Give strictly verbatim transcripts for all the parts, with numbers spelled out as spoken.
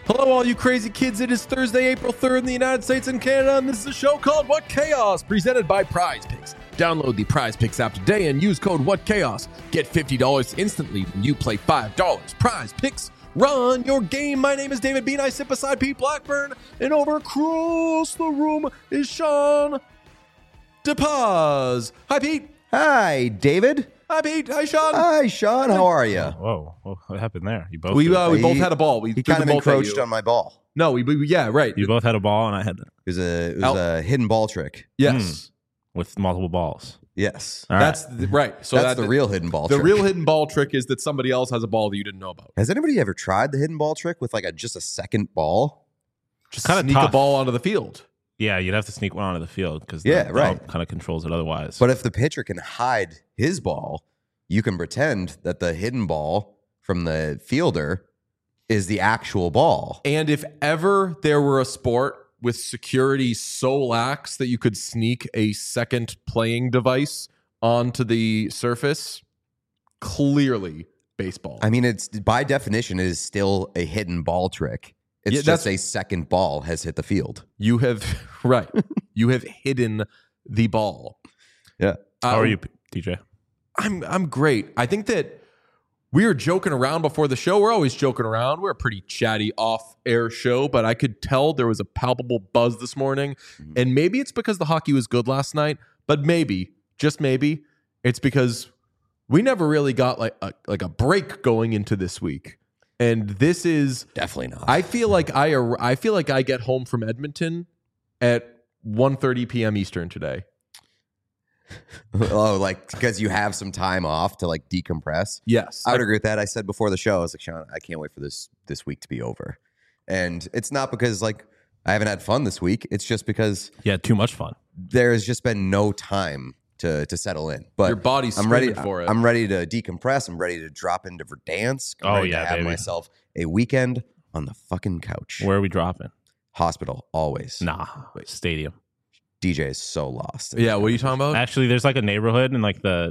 Hello, all you crazy kids. It is Thursday, April third in the United States and Canada, and this is a show called What Chaos, presented by Prize Picks. Download the Prize Picks app today and use code What Chaos. Get fifty dollars instantly when you play five dollars. Prize Picks, run your game. My name is David Bean. I sit beside Pete Blackburn, and over across the room is Sean DePaz. Hi, Pete. Hi, David. Hi, Pete. Hi, Sean. Hi, Sean. How are you? Whoa, whoa, what happened there? You both We did. uh, we He- both had a ball. We He threw kind the of ball at encroached you. on my ball. No, we, we yeah, right. you both had a ball, and I had It was a it was Al- a hidden ball trick. Yes, with multiple balls. Yes, All right. that's the, right. So that's that, the real hidden ball The trick. real hidden ball trick is that somebody else has a ball that you didn't know about. Has anybody ever tried the hidden ball trick with like a just a second ball? Just Kinda sneak a tough. ball onto the field. Yeah, you'd have to sneak one onto the field because Yeah, right. kind of controls it otherwise. But if the pitcher can hide his ball, you can pretend that the hidden ball from the fielder is the actual ball. And if ever there were a sport with security so lax that you could sneak a second playing device onto the surface, clearly baseball. I mean, it's by definition, it is still a hidden ball trick. It's Yeah, just that's- a second ball has hit the field. you have right. You have hidden the ball. Yeah. How Uh, are you, D J? I'm I'm great. I think that we were joking around before the show. We're always joking around. We're a pretty chatty off-air show, but I could tell there was a palpable buzz this morning. Mhm. And maybe it's because the hockey was good last night, but maybe, just maybe, it's because we never really got like a, like a break going into this week. And this is Definitely not. I feel like I ar- I feel like I get home from Edmonton at one thirty p.m. Eastern today. Oh, like because you have some time off to like decompress. Yes. I would agree with that. I said before the show, I was like, Sean, I can't wait for this this week to be over. And it's not because like I haven't had fun this week. It's just because Yeah, too much fun. there has just been no time to to settle in. But Your body's I'm ready screaming for it. I'm ready to decompress. I'm ready to drop into Verdansk. I'm Oh, ready yeah, to have baby. myself a weekend on the fucking couch. Where are we dropping? Hospital always. Nah, stadium. D J is so lost. Yeah, what are you talking about? Actually, there's like a neighborhood in like the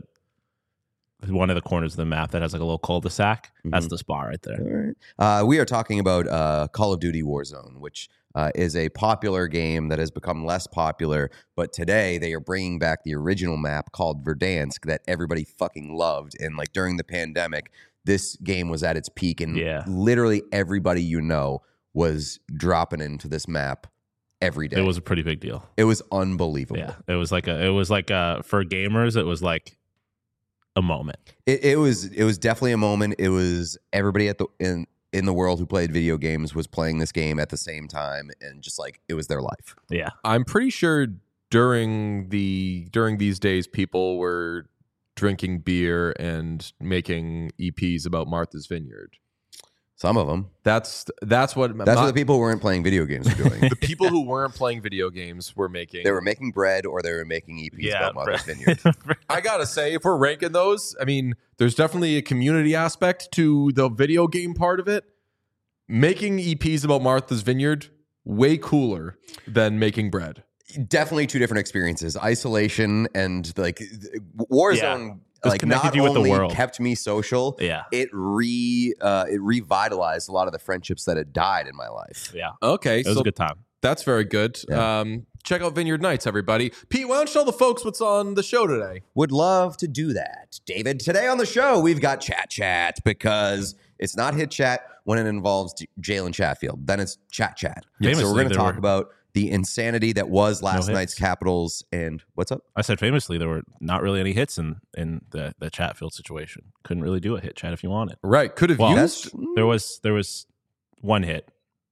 one of the corners of the map that has like a little cul-de-sac. That's Mhm. the spa right there. All right. Uh, we are talking about uh, Call of Duty Warzone, which uh, is a popular game that has become less popular. But today they are bringing back the original map called Verdansk that everybody fucking loved. And like during the pandemic, this game was at its peak, and Yeah. literally everybody you know was dropping into this map every day. It was a pretty big deal. it was unbelievable. Yeah, it was like a. It was like a, for gamers. It was like a moment. It, it was it was definitely a moment. It was everybody at the in in the world who played video games was playing this game at the same time, and just like it was their life. Yeah, I'm pretty sure during the during these days people were drinking beer and making E Ps about Martha's Vineyard. Some of them. That's that's what That's my- what the people who weren't playing video games were doing. the people who weren't playing video games were making. They were making bread or they were making E Ps yeah. about Martha's Vineyard. I gotta say, if we're ranking those, I mean, there's definitely a community aspect to the video game part of it. Making E Ps about Martha's Vineyard, way cooler than making bread. Definitely two different experiences. Isolation and like Warzone, Just like connected not you with the only world. kept me social, yeah, it re uh, it revitalized a lot of the friendships that had died in my life. yeah. Okay, It was so a good time. that's very good. Yeah. Um, check out Vineyard Nights, everybody. Pete, why don't you tell the folks what's on the show today? Would love to do that. David, today on the show, we've got Chat Chat because it's not Hit Chat when it involves J- Jalen Chatfield. Then it's Chat Chat. So Famously, we're going to there talk were- about the insanity that was last hits. night's Capitals. And what's up? I said famously there were not really any hits in in the the Chatfield situation. Couldn't really do a hit chat if you wanted. Right, could have Well, used. There was there was one hit,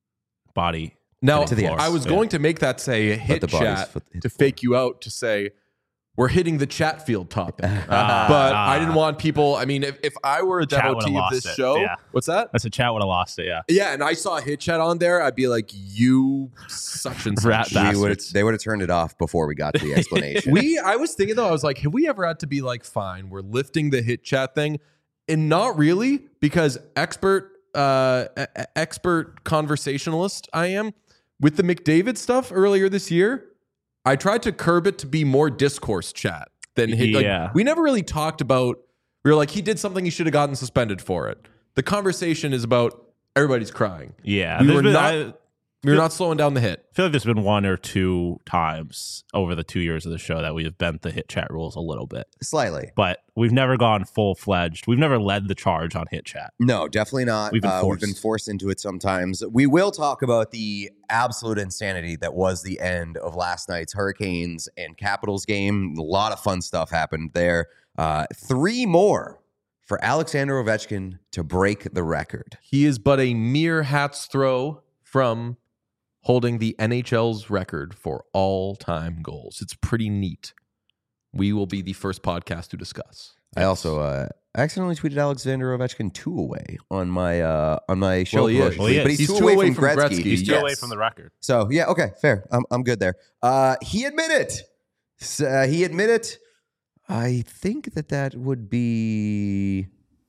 body. Now, to the I was Yeah. going to make that say a hit the body's chat foot- hit to the floor. fake you out to say we're hitting the Chatfield topic. Ah, but ah. I didn't want people. I mean, if, if I were a Chat devotee would've of lost this it, show, yeah. what's that? That's a chat would have lost it. Yeah. Yeah, and I saw a hit chat on there, I'd be like, you such and Rat such. bastard. We would've- bastards. they would have turned it off before we got to the explanation. We, I was thinking though, I was like, have we ever had to be like, fine, we're lifting the hit chat thing, and not really, because expert, uh, e- e- expert conversationalist I am with the McDavid stuff earlier this year. I tried to curb it to be more discourse chat than hit. Yeah. Like, we never really talked about. We were like, he did something, he should have gotten suspended for it. The conversation is about everybody's crying. Yeah, we there's were been- not. I, We were not slowing down the hit. I feel like there's been one or two times over the two years of the show that we've bent the hit chat rules a little bit, Slightly. but we've never gone full fledged. We've never led the charge on hit chat. No, definitely not. We've been Uh, we've been forced. forced into it sometimes. We will talk about the absolute insanity that was the end of last night's Hurricanes and Capitals game. A lot of fun stuff happened there. Uh, three more for Alexander Ovechkin to break the record. He is but a mere hat's throw from holding the N H L's record for all-time goals. It's pretty neat. We will be the first podcast to discuss. I also uh, accidentally tweeted Alexander Ovechkin two away on my uh, on my show. Well, he is. promotion Well, he tweet, but is. he's, He's two away from Gretzky. He's two Yes. away from the record. So yeah, okay, fair. I'm I'm good there. Uh, he admitted. S- Uh, he admitted. I think that that would be.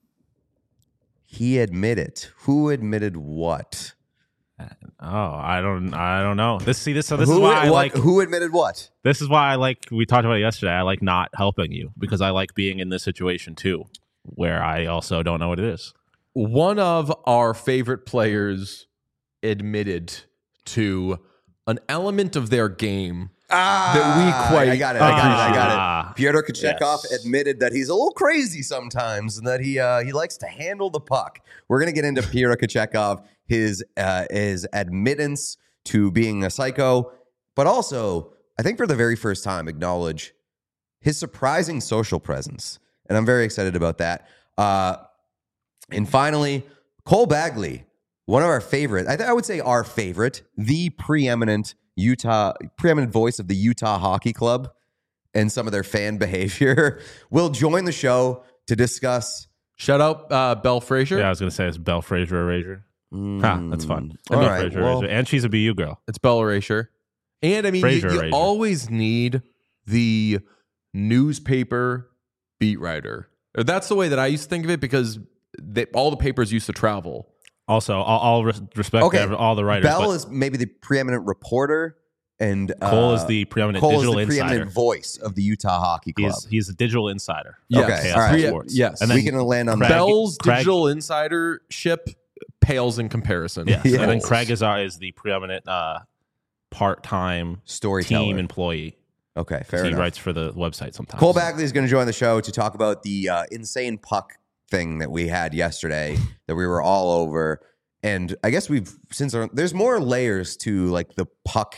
He admitted. Who admitted what? Oh, I don't, I don't know. This, see, this, so this who, is why I what, like. Who admitted what? This is why I like. We talked about it yesterday. I like not helping you because I like being in this situation too, where I also don't know what it is. One of our favorite players admitted to an element of their game Ah, that we quite I got it. I got it. I got Ah, it. Pyotr Kochetkov yes. admitted that he's a little crazy sometimes and that he uh, he likes to handle the puck. We're gonna get into Pyotr Kochetkov, his uh, his admittance to being a psycho, but also I think for the very first time acknowledge his surprising social presence, and I'm very excited about that. Uh, and finally, Cole Bagley, one of our favorite, I, th- I would say our favorite, the preeminent Utah, preeminent voice of the Utah Hockey Club and some of their fan behavior, will join the show to discuss. Shout out uh, Belle Frazier. Yeah, I was gonna say it's Belle Frazier Erasure. Mm, Huh, that's fun. All Belle right, Frazier well, Erasure. And she's a B U girl. It's Belle Erasure. And I mean, you, Fraser you Erasure. always need the newspaper beat writer. Or that's the way that I used to think of it because they, all the papers used to travel. Also, all, all res- respect Okay, to every- all the writers. Bell but is maybe the preeminent reporter, and uh, Cole is the preeminent Cole digital is the insider. preeminent voice of the Utah Hockey Club. He's he's a digital insider. Yes. of Chaos all right. Sports. Yes. and then we can land on Craig- that. Bell's Craig- digital insidership pales in comparison. yes, Yes. and then Craig is our, is the preeminent uh, part-time Storyteller. team employee. Okay, fair he enough. writes for the website sometimes. Cole Bagley is going to join the show to talk about the uh, insane puck thing that we had yesterday that we were all over. And I guess we've since our, there's more layers to like the puck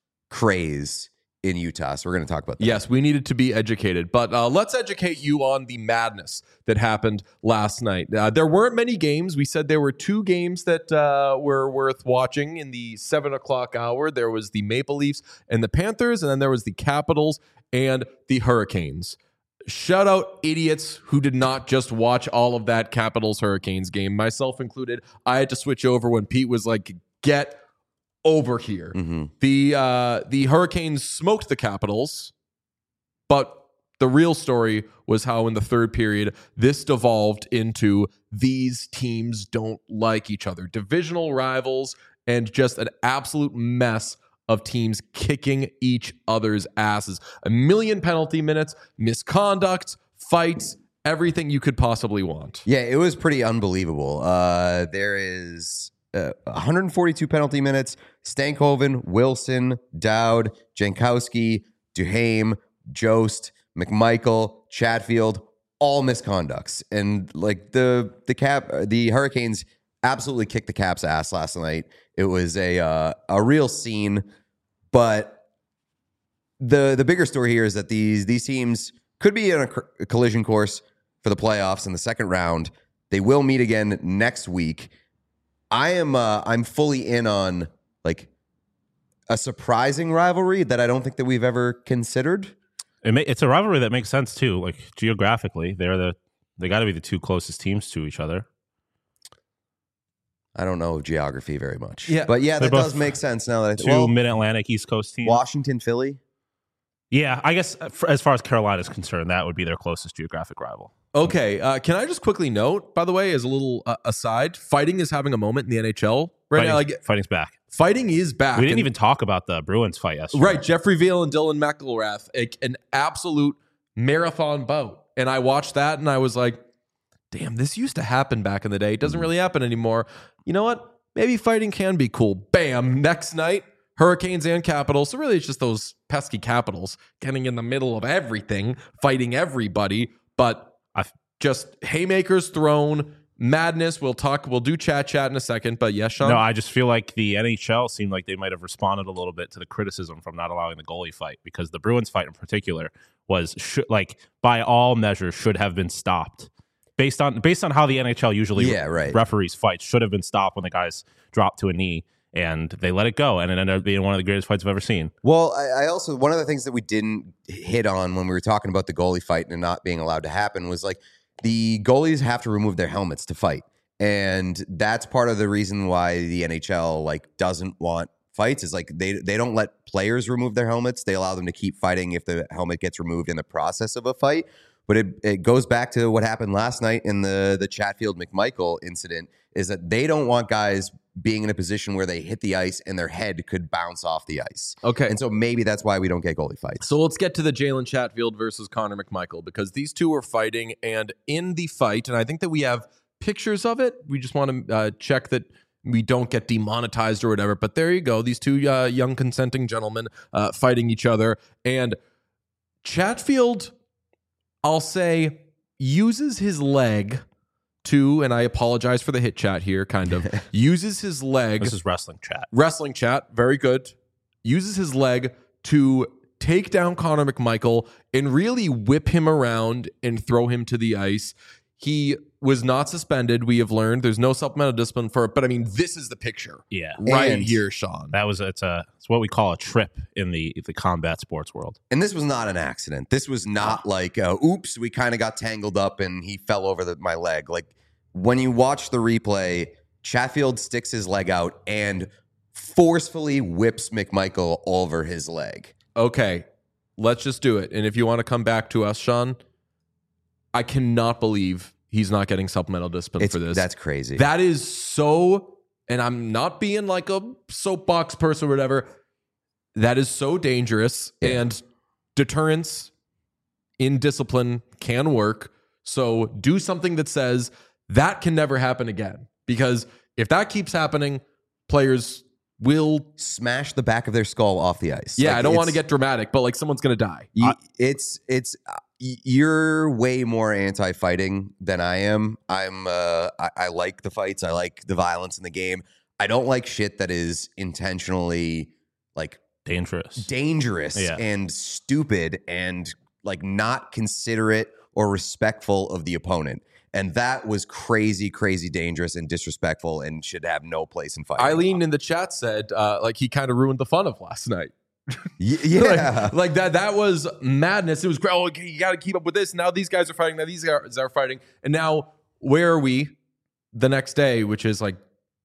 craze in Utah. So we're going to talk about that. Yes, we needed to be educated, but uh, let's educate you on the madness that happened last night. Uh, there weren't many games. We said there were two games that uh, were worth watching in the seven o'clock hour. There was the Maple Leafs and the Panthers, and then there was the Capitals and the Hurricanes. Shout out idiots who did not just watch all of that Capitals Hurricanes game, myself included. I had to switch over when Pete was like, get over here. Mm-hmm. The uh, the Hurricanes smoked the Capitals, but the real story was how in the third period this devolved into these teams don't like each other, divisional rivals, and just an absolute mess of teams kicking each other's asses. A million penalty minutes, misconduct, fights, everything you could possibly want. Yeah, it was pretty unbelievable. Uh, there is uh, one hundred forty-two penalty minutes. Stankoven, Wilson, Dowd, Jankowski, Duhaime, Jost, McMichael, Chatfield, all misconducts. And like the the cap, the Hurricanes absolutely kicked the Caps' ass last night. It was a uh, a real scene, but the the bigger story here is that these these teams could be in a, co- a collision course for the playoffs in the second round. They will meet again next week. I am uh, I'm fully in on like a surprising rivalry that I don't think that we've ever considered. It may, it's a rivalry that makes sense too. Like geographically, they're the they got to be the two closest teams to each other. I don't know geography very much. Yeah. But yeah, They're that does both make sense now that I Two think. Well, Mid-Atlantic East Coast teams. Washington, Philly. Yeah, I guess uh, for, as far as Carolina is concerned, that would be their closest geographic rival. Okay, uh, can I just quickly note, by the way, as a little uh, aside, fighting is having a moment in the N H L right Fighting's, now. Like, fighting's back. fighting is back. We didn't And- even talk about the Bruins fight yesterday. Right, Jeffrey Vail and Dylan McElrath, a, an absolute marathon bout. And I watched that and I was like, damn, this used to happen back in the day. It doesn't really happen anymore. You know what? Maybe fighting can be cool. Bam. Next night, Hurricanes and Capitals. So really, it's just those pesky Capitals getting in the middle of everything, fighting everybody. But I've just haymakers thrown, madness. We'll talk. We'll do chat chat in a second. But yes, Sean. No, I just feel like the N H L seemed like they might have responded a little bit to the criticism from not allowing the goalie fight, because the Bruins fight in particular was sh- like by all measures should have been stopped. Based on based on how the N H L usually Yeah, right. referees fights, should have been stopped when the guys dropped to a knee, and they let it go, and it ended up being one of the greatest fights I've ever seen. Well, I, I also, one of the things that we didn't hit on when we were talking about the goalie fight and not being allowed to happen was like the goalies have to remove their helmets to fight. And that's part of the reason why the N H L like doesn't want fights, is like they they don't let players remove their helmets. They allow them to keep fighting if the helmet gets removed in the process of a fight. But it, it goes back to what happened last night in the, the Chatfield McMichael incident, is that they don't want guys being in a position where they hit the ice and their head could bounce off the ice. Okay. And so maybe that's why we don't get goalie fights. So let's get to the Jalen Chatfield versus Connor McMichael, because these two were fighting, and in the fight, and I think that we have pictures of it. We just want to uh, check that we don't get demonetized or whatever. But there you go. These two uh, young consenting gentlemen uh, fighting each other. And Chatfield, I'll say, uses his leg to, and I apologize for the hit chat here, kind of, uses his leg. This is wrestling chat. Wrestling chat, very good. Uses his leg to take down Connor McMichael and really whip him around and throw him to the ice. He was not suspended, we have learned. There's no supplemental discipline for it, but I mean, this is the picture. Yeah. Right And- here, Sean. That was it's a it's what we call a trip in the the combat sports world. And this was not an accident. This was not like, uh, oops, we kind of got tangled up and he fell over the, my leg. Like, when you watch the replay, Chatfield sticks his leg out and forcefully whips McMichael over his leg. Okay, let's just do it. And if you want to come back to us, Sean, I cannot believe he's not getting supplemental discipline It's, for this. That's crazy. That is so, and I'm not being like a soapbox person or whatever. That is so dangerous, Yeah. and deterrence in discipline can work. So do something that says that can never happen again. Because if that keeps happening, players will. Smash the back of their skull off the ice. Yeah, Like, I don't want to it's- get dramatic, but like someone's going to die. You, it's it's uh, y- you're way more anti-fighting than I am. I'm uh, I, I like the fights. I like the violence in the game. I don't like shit that is intentionally like Dangerous. dangerous Yeah. and stupid and like not considerate or respectful of the opponent. And that was crazy, crazy dangerous and disrespectful and should have no place in fighting. Eileen in the chat said, uh, like, he kind of ruined the fun of last night. Y- yeah. like, like that that was madness. It was great. Oh, okay, you got to keep up with this. Now these guys are fighting. Now these guys are fighting. And now where are we the next day, which is like,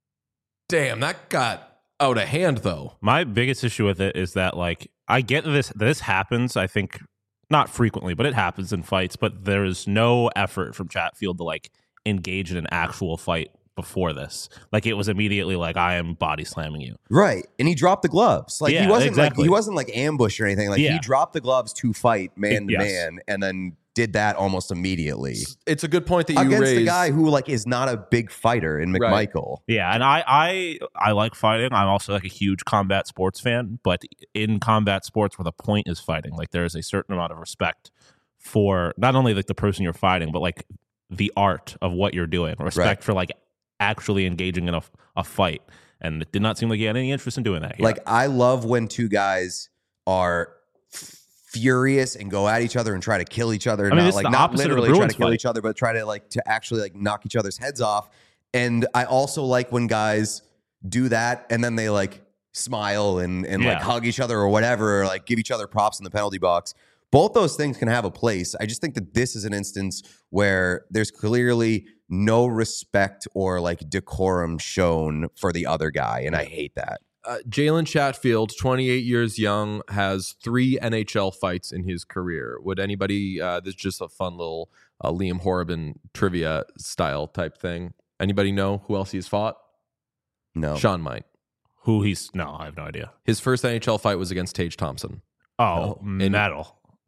damn, that got out of hand, though. My biggest issue with it is that, like, I get this. This happens, I think, not frequently, but it happens in fights. But there is no effort from Chatfield to, like, engage in an actual fight before this. Like, it was immediately like, I am body slamming you. Right. And he dropped the gloves. Like Yeah, he wasn't exactly. like he wasn't like ambushed or anything. Like Yeah. he dropped the gloves to fight man to Yes. man and then did that almost immediately. It's a good point that you Against raised. the guy who like is not a big fighter in Right. McMichael. Yeah, and I, I I like fighting. I'm also like a huge combat sports fan, but in combat sports where the point is fighting, like there is a certain amount of respect for not only like the person you're fighting, but like the art of what you're doing. Respect Right. for like actually engaging in a, a fight. And it did not seem like he had any interest in doing that here. Like I love when two guys are f- furious and go at each other and try to kill each other. I mean, not this is like the not opposite of the literally try to Bruins kill fight. each other, but try to like to actually like knock each other's heads off. And I also like when guys do that and then they like smile and and like Yeah. hug each other or whatever, or like give each other props in the penalty box. Both those things can have a place. I just think that this is an instance where there's clearly no respect or like decorum shown for the other guy, and I hate that. Uh, Jalen Chatfield, twenty-eight years young, has three N H L fights in his career. Would anybody, uh, this is just a fun little uh, Liam Horriban trivia style type thing. Anybody know who else he's fought? No. Sean might. who he's no, I have no idea. His first N H L fight was against Tage Thompson. Oh, And- metal.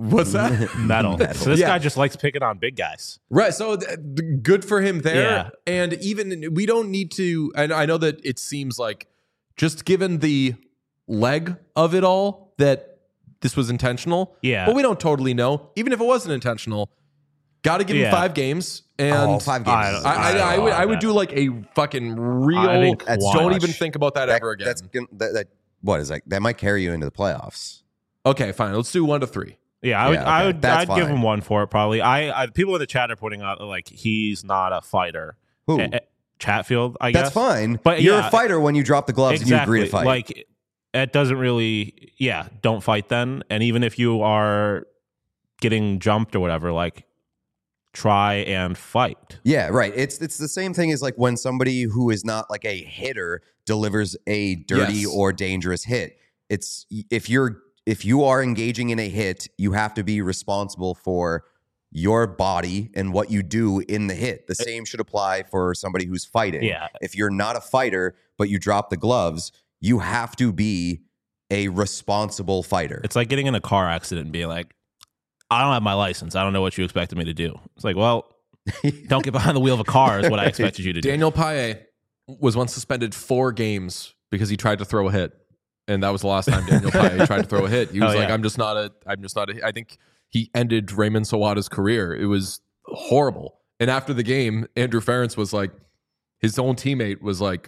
What's that? Metal. Metal. So this Yeah. guy just likes picking on big guys. Right. So th- th- good for him there. Yeah. And even we don't need to, and I know that it seems like just given the leg of it all that this was intentional. Yeah. But we don't totally know. Even if it wasn't intentional, got to give Yeah. him five games. And Oh, five games. I is- don't- I, I, I would I would man. do like a fucking real. I think That's don't watch. even think about that, that, ever again. That's gonna- that, that. What is that? That might carry you into the playoffs. Okay, fine. Let's do one to three. Yeah, I would. Yeah, I okay. would. That's I'd give fine. him one for it. Probably. I, I. People in the chat are putting out like he's not a fighter. Who? Eh, eh, Chatfield. I guess That's fine. But you're yeah, a fighter when you drop the gloves and you exactly. agree to fight. Like it doesn't really. Yeah, don't fight then. And even if you are getting jumped or whatever, like try and fight. Yeah, right. It's it's the same thing as like when somebody who is not like a hitter delivers a dirty Yes. or dangerous hit. It's if you're if you are engaging in a hit, you have to be responsible for your body and what you do in the hit. The same should apply for somebody who's fighting. Yeah. If you're not a fighter but you drop the gloves, you have to be a responsible fighter. It's like getting in a car accident and being like, I don't have my license. I don't know what you expected me to do. It's like, well, don't get behind the wheel of a car is what I expected you to do. Daniel Paye was once suspended four games because he tried to throw a hit. And that was the last time Daniel Paye tried to throw a hit. He was Oh, like, yeah. I'm just not a, I'm just not a, I think he ended Raymond Sawada's career. It was horrible. And after the game, Andrew Ferentz was like, his own teammate was like,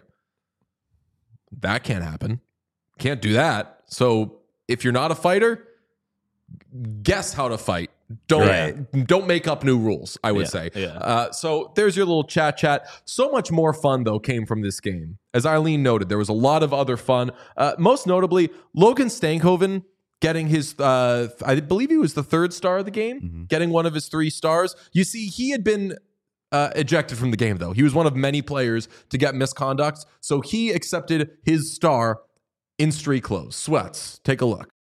that can't happen. Can't do that. So if you're not a fighter, guess how to fight. Don't Right. don't make up new rules, I would Yeah, say. yeah. Uh, so there's your little chat chat. So much more fun, though, came from this game. As Eileen noted, there was a lot of other fun. Uh, most notably, Logan Stankoven getting his, uh, I believe he was the third star of the game, Mm-hmm. getting one of his three stars. You see, he had been uh, ejected from the game, though. He was one of many players to get misconduct. So he accepted his star in street clothes. Sweats, take a look.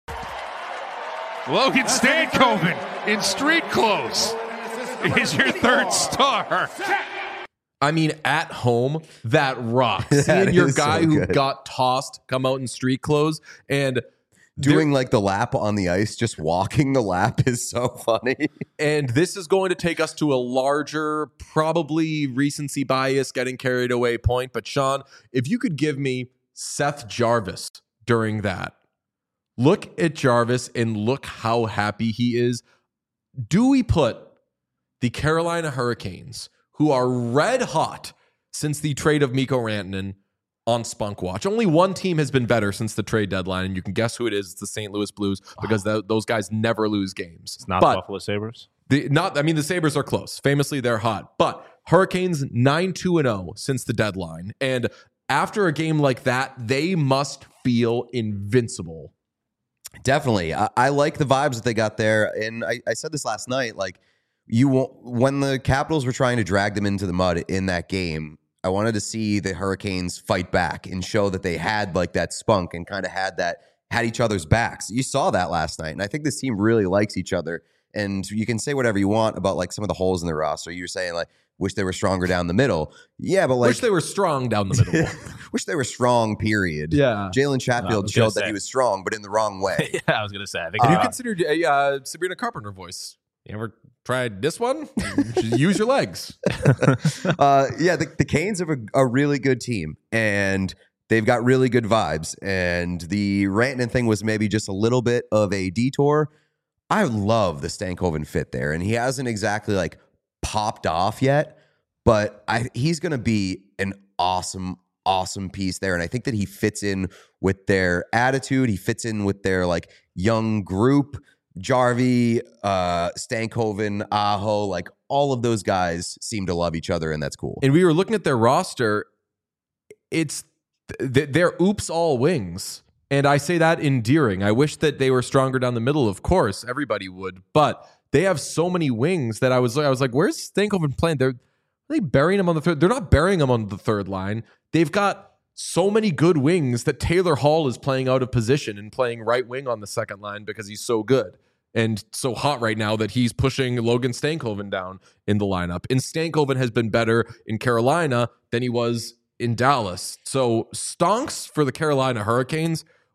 Logan Stankoven in street clothes is your third star. I mean, at home, that rocks. That Seeing your is so guy who good. got tossed come out in street clothes and Doing like the lap on the ice, just walking the lap is so funny. and this is going to take us to a larger, probably recency bias, getting carried away point. But Sean, if you could give me Seth Jarvis during that, look at Jarvis and look how happy he is. Do we put the Carolina Hurricanes, who are red hot since the trade of Mikko Rantanen, on Spunk Watch? Only one team has been better since the trade deadline, and you can guess who it is. It's the Saint Louis Blues, because th- those guys never lose games. It's not but the Buffalo Sabres. the, not, I mean, the Sabres are close. Famously, they're hot. But Hurricanes nine two and oh since the deadline. And after a game like that, they must feel invincible. Definitely. I, I like the vibes that they got there. And I, I said this last night, like you won't, when the Capitals were trying to drag them into the mud in that game, I wanted to see the Hurricanes fight back and show that they had like that spunk and kind of had that, had each other's backs. You saw that last night. And I think this team really likes each other. And you can say whatever you want about like some of the holes in the roster. You're saying like, wish they were stronger down the middle. Yeah, but like, Wish they were strong down the middle. wish they were strong, period. Yeah. Jalen I Chatfield was gonna showed that say. he was strong, but in the wrong way. Yeah, I was gonna say. I think Have uh, you considered a uh, Sabrina Carpenter voice? You ever tried this one? Use your legs. uh, yeah, the, the Canes have a, a really good team, and they've got really good vibes. And the Rantanen thing was maybe just a little bit of a detour. I love the Stankoven fit there, and he hasn't exactly like popped off yet, but I, he's going to be an awesome, awesome piece there. And I think that he fits in with their attitude. He fits in with their like young group. Jarvie, uh, Stankoven, Aho, like all of those guys seem to love each other, and that's cool. And we were looking at their roster. It's th- they're oops all wings. And I say that endearing. I wish that they were stronger down the middle. Of course, everybody would. But they have so many wings that I was I was like, where's Stankoven playing? They're are they burying him on the third? They're not burying him on the third line. They've got so many good wings that Taylor Hall is playing out of position and playing right wing on the second line because he's so good and so hot right now that he's pushing Logan Stankoven down in the lineup. And Stankoven has been better in Carolina than he was in Dallas. So stonks for the Carolina Hurricanes.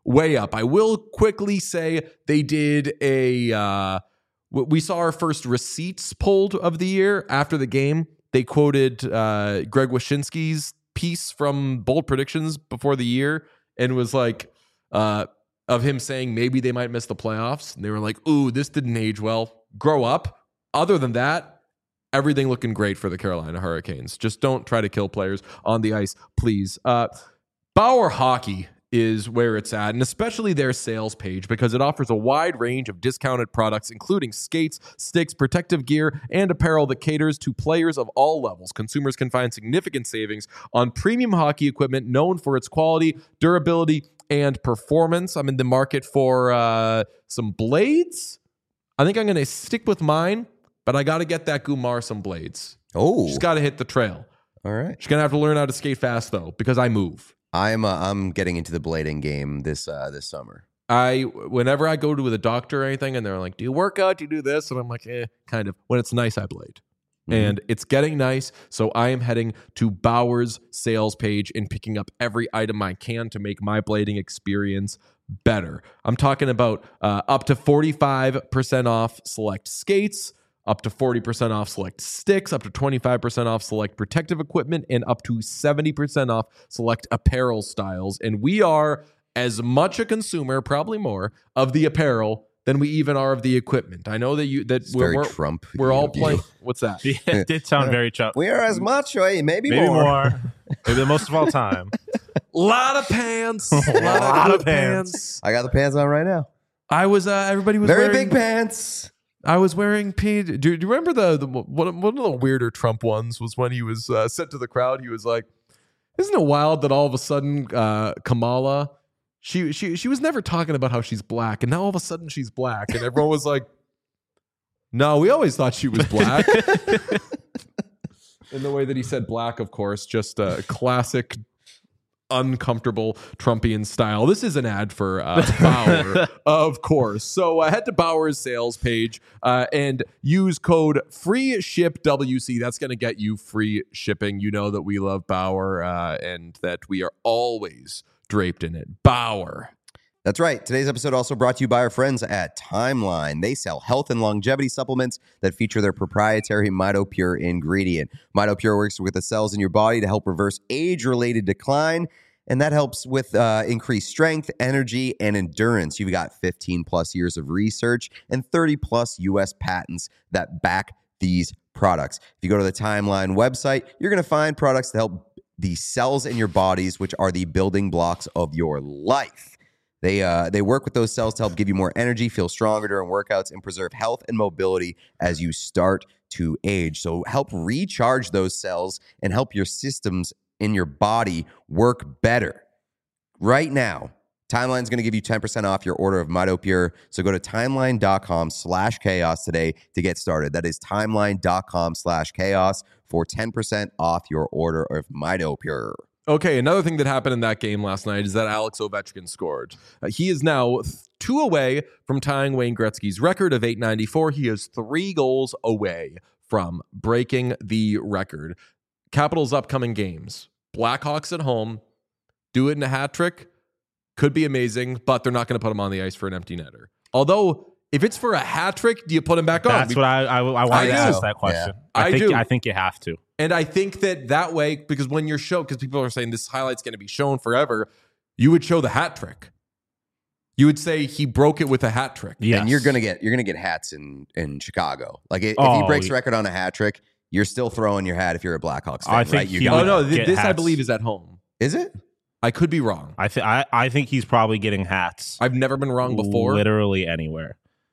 way up. I will quickly say they did a. Uh, we saw our first receipts pulled of the year after the game. They quoted uh, Greg Wyshynski's piece from Bold Predictions before the year and was like, uh, of him saying maybe they might miss the playoffs. And they were like, ooh, this didn't age well. Grow up. Other than that, everything looking great for the Carolina Hurricanes. Just don't try to kill players on the ice, please. Uh, Bauer Hockey is where it's at, and especially their sales page, because it offers a wide range of discounted products, including skates, sticks, protective gear, and apparel that caters to players of all levels. Consumers can find significant savings on premium hockey equipment known for its quality, durability, and performance. I'm in the market for uh, some blades. I think I'm going to stick with mine, but I got to get that Gumar some blades. Oh. She's got to hit the trail. All right. She's going to have to learn how to skate fast, though, because I move. I'm uh, I'm getting into the blading game this uh, this summer. I whenever I go to the doctor or anything, and they're like, "Do you work out? Do you do this?" And I'm like, "Eh, kind of." When it's nice, I blade, mm-hmm. and it's getting nice. So I am heading to Bauer's sales page and picking up every item I can to make my blading experience better. I'm talking about uh, up to forty-five percent off select skates, up to forty percent off select sticks, up to twenty-five percent off select protective equipment, and up to seventy percent off select apparel styles. And we are as much a consumer, probably more, of the apparel than we even are of the equipment. I know that you that it's we're, very we're, Trump. we're all playing. What's that? Yeah, it did sound very Trump. We are as much, eh? maybe, Maybe more. more. Maybe the most of all time. lot of pants. A lot, lot of of pants. pants. I got the pants on right now. I was. Uh, everybody was Very wearing, big pants. I was wearing P. Do, do you remember the, the one, one of the weirder Trump ones was when he was uh, said to the crowd, he was like, "Isn't it wild that all of a sudden uh, Kamala, she she she was never talking about how she's black, and now all of a sudden she's black," and everyone was like, "No, we always thought she was black." In the way that he said black, of course, just a classic uncomfortable Trumpian style. This is an ad for uh, Bauer, of course. So uh, head to Bauer's sales page uh, and use code FREESHIPWC. That's going to get you free shipping. You know that we love Bauer uh, and that we are always draped in it. Bauer. That's right. Today's episode also brought to you by our friends at Timeline. They sell health and longevity supplements that feature their proprietary MitoPure ingredient. MitoPure works with the cells in your body to help reverse age-related decline, and that helps with uh, increased strength, energy, and endurance. You've got fifteen plus years of research and thirty plus U S patents that back these products. If you go to the Timeline website, you're going to find products that help the cells in your bodies, which are the building blocks of your life. They uh, they work with those cells to help give you more energy, feel stronger during workouts, and preserve health and mobility as you start to age. So help recharge those cells and help your systems in your body work better. Right now, Timeline's going to give you ten percent off your order of MitoPure. So go to timeline.com slash chaos today to get started. That is timeline.com slash chaos for ten percent off your order of MitoPure. Okay, another thing that happened in that game last night is that Alex Ovechkin scored. Uh, he is now th- two away from tying Wayne Gretzky's record of eight ninety-four. He is three goals away from breaking the record. Capitals' upcoming games. Blackhawks at home. Do it in a hat trick. Could be amazing, but they're not going to put him on the ice for an empty netter. Although, if it's for a hat trick, do you put him back on? That's what I I, I wanted I to do. ask that question. Yeah. I, I think do. I think you have to. And I think that that way, because when you're shown, because people are saying this highlight's going to be shown forever, you would show the hat trick. You would say he broke it with a hat trick. Yes. And you're gonna get you're gonna get hats in in Chicago. Like if Oh, he breaks the yeah. record on a hat trick, you're still throwing your hat if you're a Blackhawks fan, I think right? You're he gonna- Oh, no, th- Get this I hats. believe is at home. Is it? I could be wrong. I think I I think he's probably getting hats. I've never been wrong before. Literally anywhere.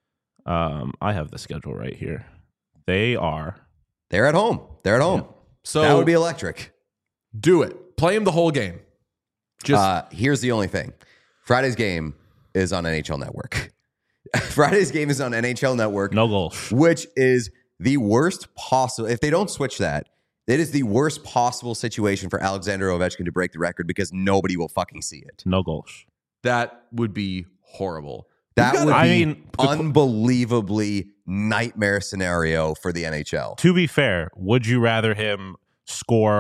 Um, I have the schedule right here. They are. They're at home. They're at home. So That would be electric. do it. Play him the whole game. Just Uh, here's the only thing. Friday's game is on N H L Network. Friday's game is on N H L Network, No goals. which is the worst possible. If they don't switch that, it is the worst possible situation for Alexander Ovechkin to break the record because nobody will fucking see it. No goals. that would be horrible. That We've would got- be I mean, the- unbelievably nightmare scenario for the N H L. To be fair, would you rather him score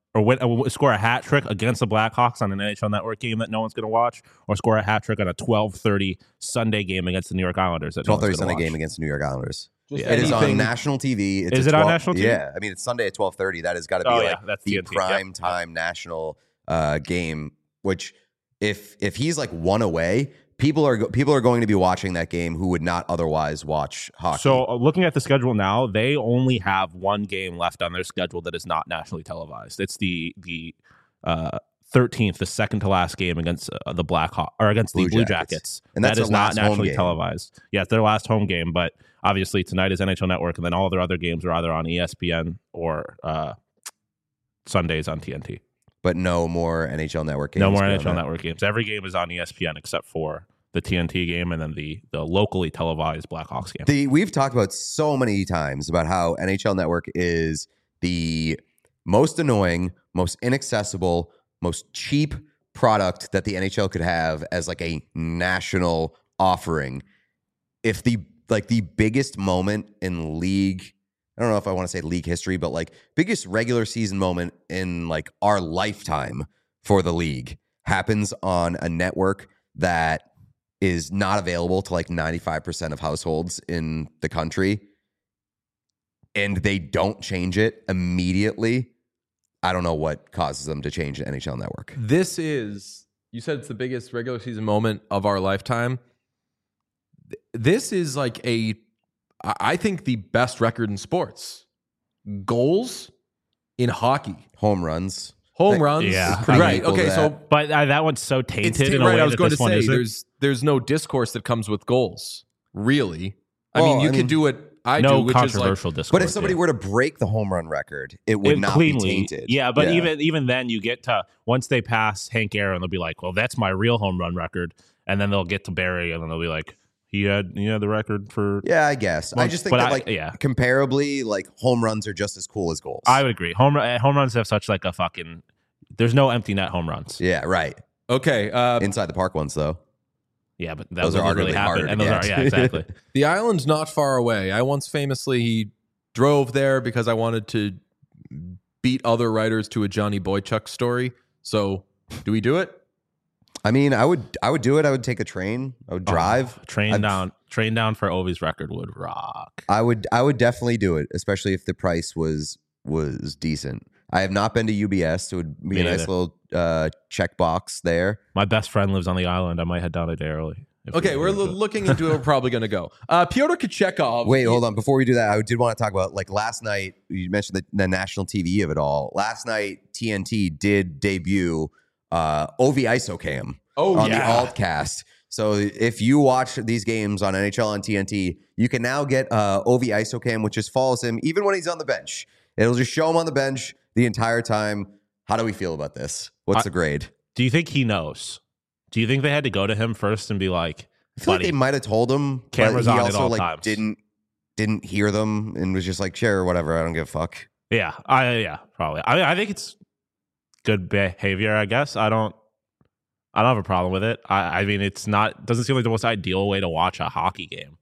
or win, uh, score a hat trick against the Blackhawks on an N H L Network game that no one's going to watch, or score a hat trick on a twelve thirty Sunday game against the New York Islanders that twelve thirty no Sunday watch. game against the New York Islanders. Just It is on anything- national T V. It's Is a it on twelve national T V? Yeah, I mean it's Sunday at twelve thirty. That has got to be Oh, like yeah, that's the T N T. prime Yep. time national uh, game. Which, if if he's like one away, people are go- people are going to be watching that game who would not otherwise watch hockey. So uh, looking at the schedule now, they only have one game left on their schedule that is not nationally televised. It's the the uh, thirteenth, the second to last game against uh, the Blackhawks or against the Blue Blue Jackets. Jackets. And that's that is their not last home nationally game. televised. Yeah, it's their last home game, but obviously tonight is N H L Network, and then all their other games are either on E S P N or uh, Sundays on T N T. but no more N H L Network games. No more beyond N H L that. Network games. Every game is on E S P N except for the T N T game and then the the locally televised Blackhawks game. The, we've talked about so many times about how N H L Network is the most annoying, most inaccessible, most cheap product that the N H L could have as like a national offering. If the like the biggest moment in league, I don't know if I want to say league history, but like biggest regular season moment in like our lifetime for the league happens on a network that is not available to like ninety-five percent of households in the country, and they don't change it immediately, I don't know what causes them to change the N H L Network. This is, you said it's the biggest regular season moment of our lifetime. Th- This is like a, I I think the best record in sports. Goals in hockey. Home runs. Home Like, runs. yeah, pretty Right. equal to Okay. that. So But uh, that one's so it's tainted ta- in a right. way I was that going this to one say isn't. there's there's no discourse that comes with goals. Really. I Well, mean, you I can mean, do what I no do, which is like controversial discourse. But if somebody yeah. were to break the home run record, it would It not cleanly, be tainted. Yeah, but even even then, you get to once they pass Hank Aaron, they'll be like, "Well, that's my real home run record," and then they'll get to Barry, and then they'll be like, "He had he had the record for." Yeah, I guess. I Well, just think but that I- like yeah. comparably, like home runs are just as cool as goals. I would agree. Home run- home runs have such like a fucking. There's no empty net home runs. yeah, right. okay. Uh, Inside the park ones though. Yeah, but that Those doesn't are really arguably happen. harder to And those get. are yeah, exactly. The island's not far away. I once famously drove there because I wanted to beat other writers to a Johnny Boychuk story. So, do we do it? I mean, I would I would do it. I would take a train. I would drive. Oh, train I'd- down, train down for Ovi's record would rock. I would I would definitely do it, especially if the price was was decent. I have not been to U B S, so it would be Me a nice neither. little uh, check box there. My best friend lives on the island. I might head down a day early. if Okay, we we're do lo- it. looking into it. We're probably going to go. Uh, Pyotr Kochekov. Wait, hold on. Before we do that, I did want to talk about like last night. You mentioned the, the national T V of it all. Last night, T N T did debut uh, Ovi ISOCAM Oh, on yeah. the Altcast. So if you watch these games on N H L on T N T, you can now get uh, Ovi ISOCAM, which just follows him even when he's on the bench. It'll just show him on the bench the entire time. How do we feel about this? What's I- the grade? Do you think he knows? Do you think they had to go to him first and be like, I feel buddy, like they might have told him, Cameras but he on at also all like times. didn't didn't hear them and was just like, sure, whatever. I don't give a fuck. yeah, I yeah, probably. I mean, I think it's good behavior. I guess I don't. I don't have a problem with it. I, I mean, it's not doesn't seem like the most ideal way to watch a hockey game,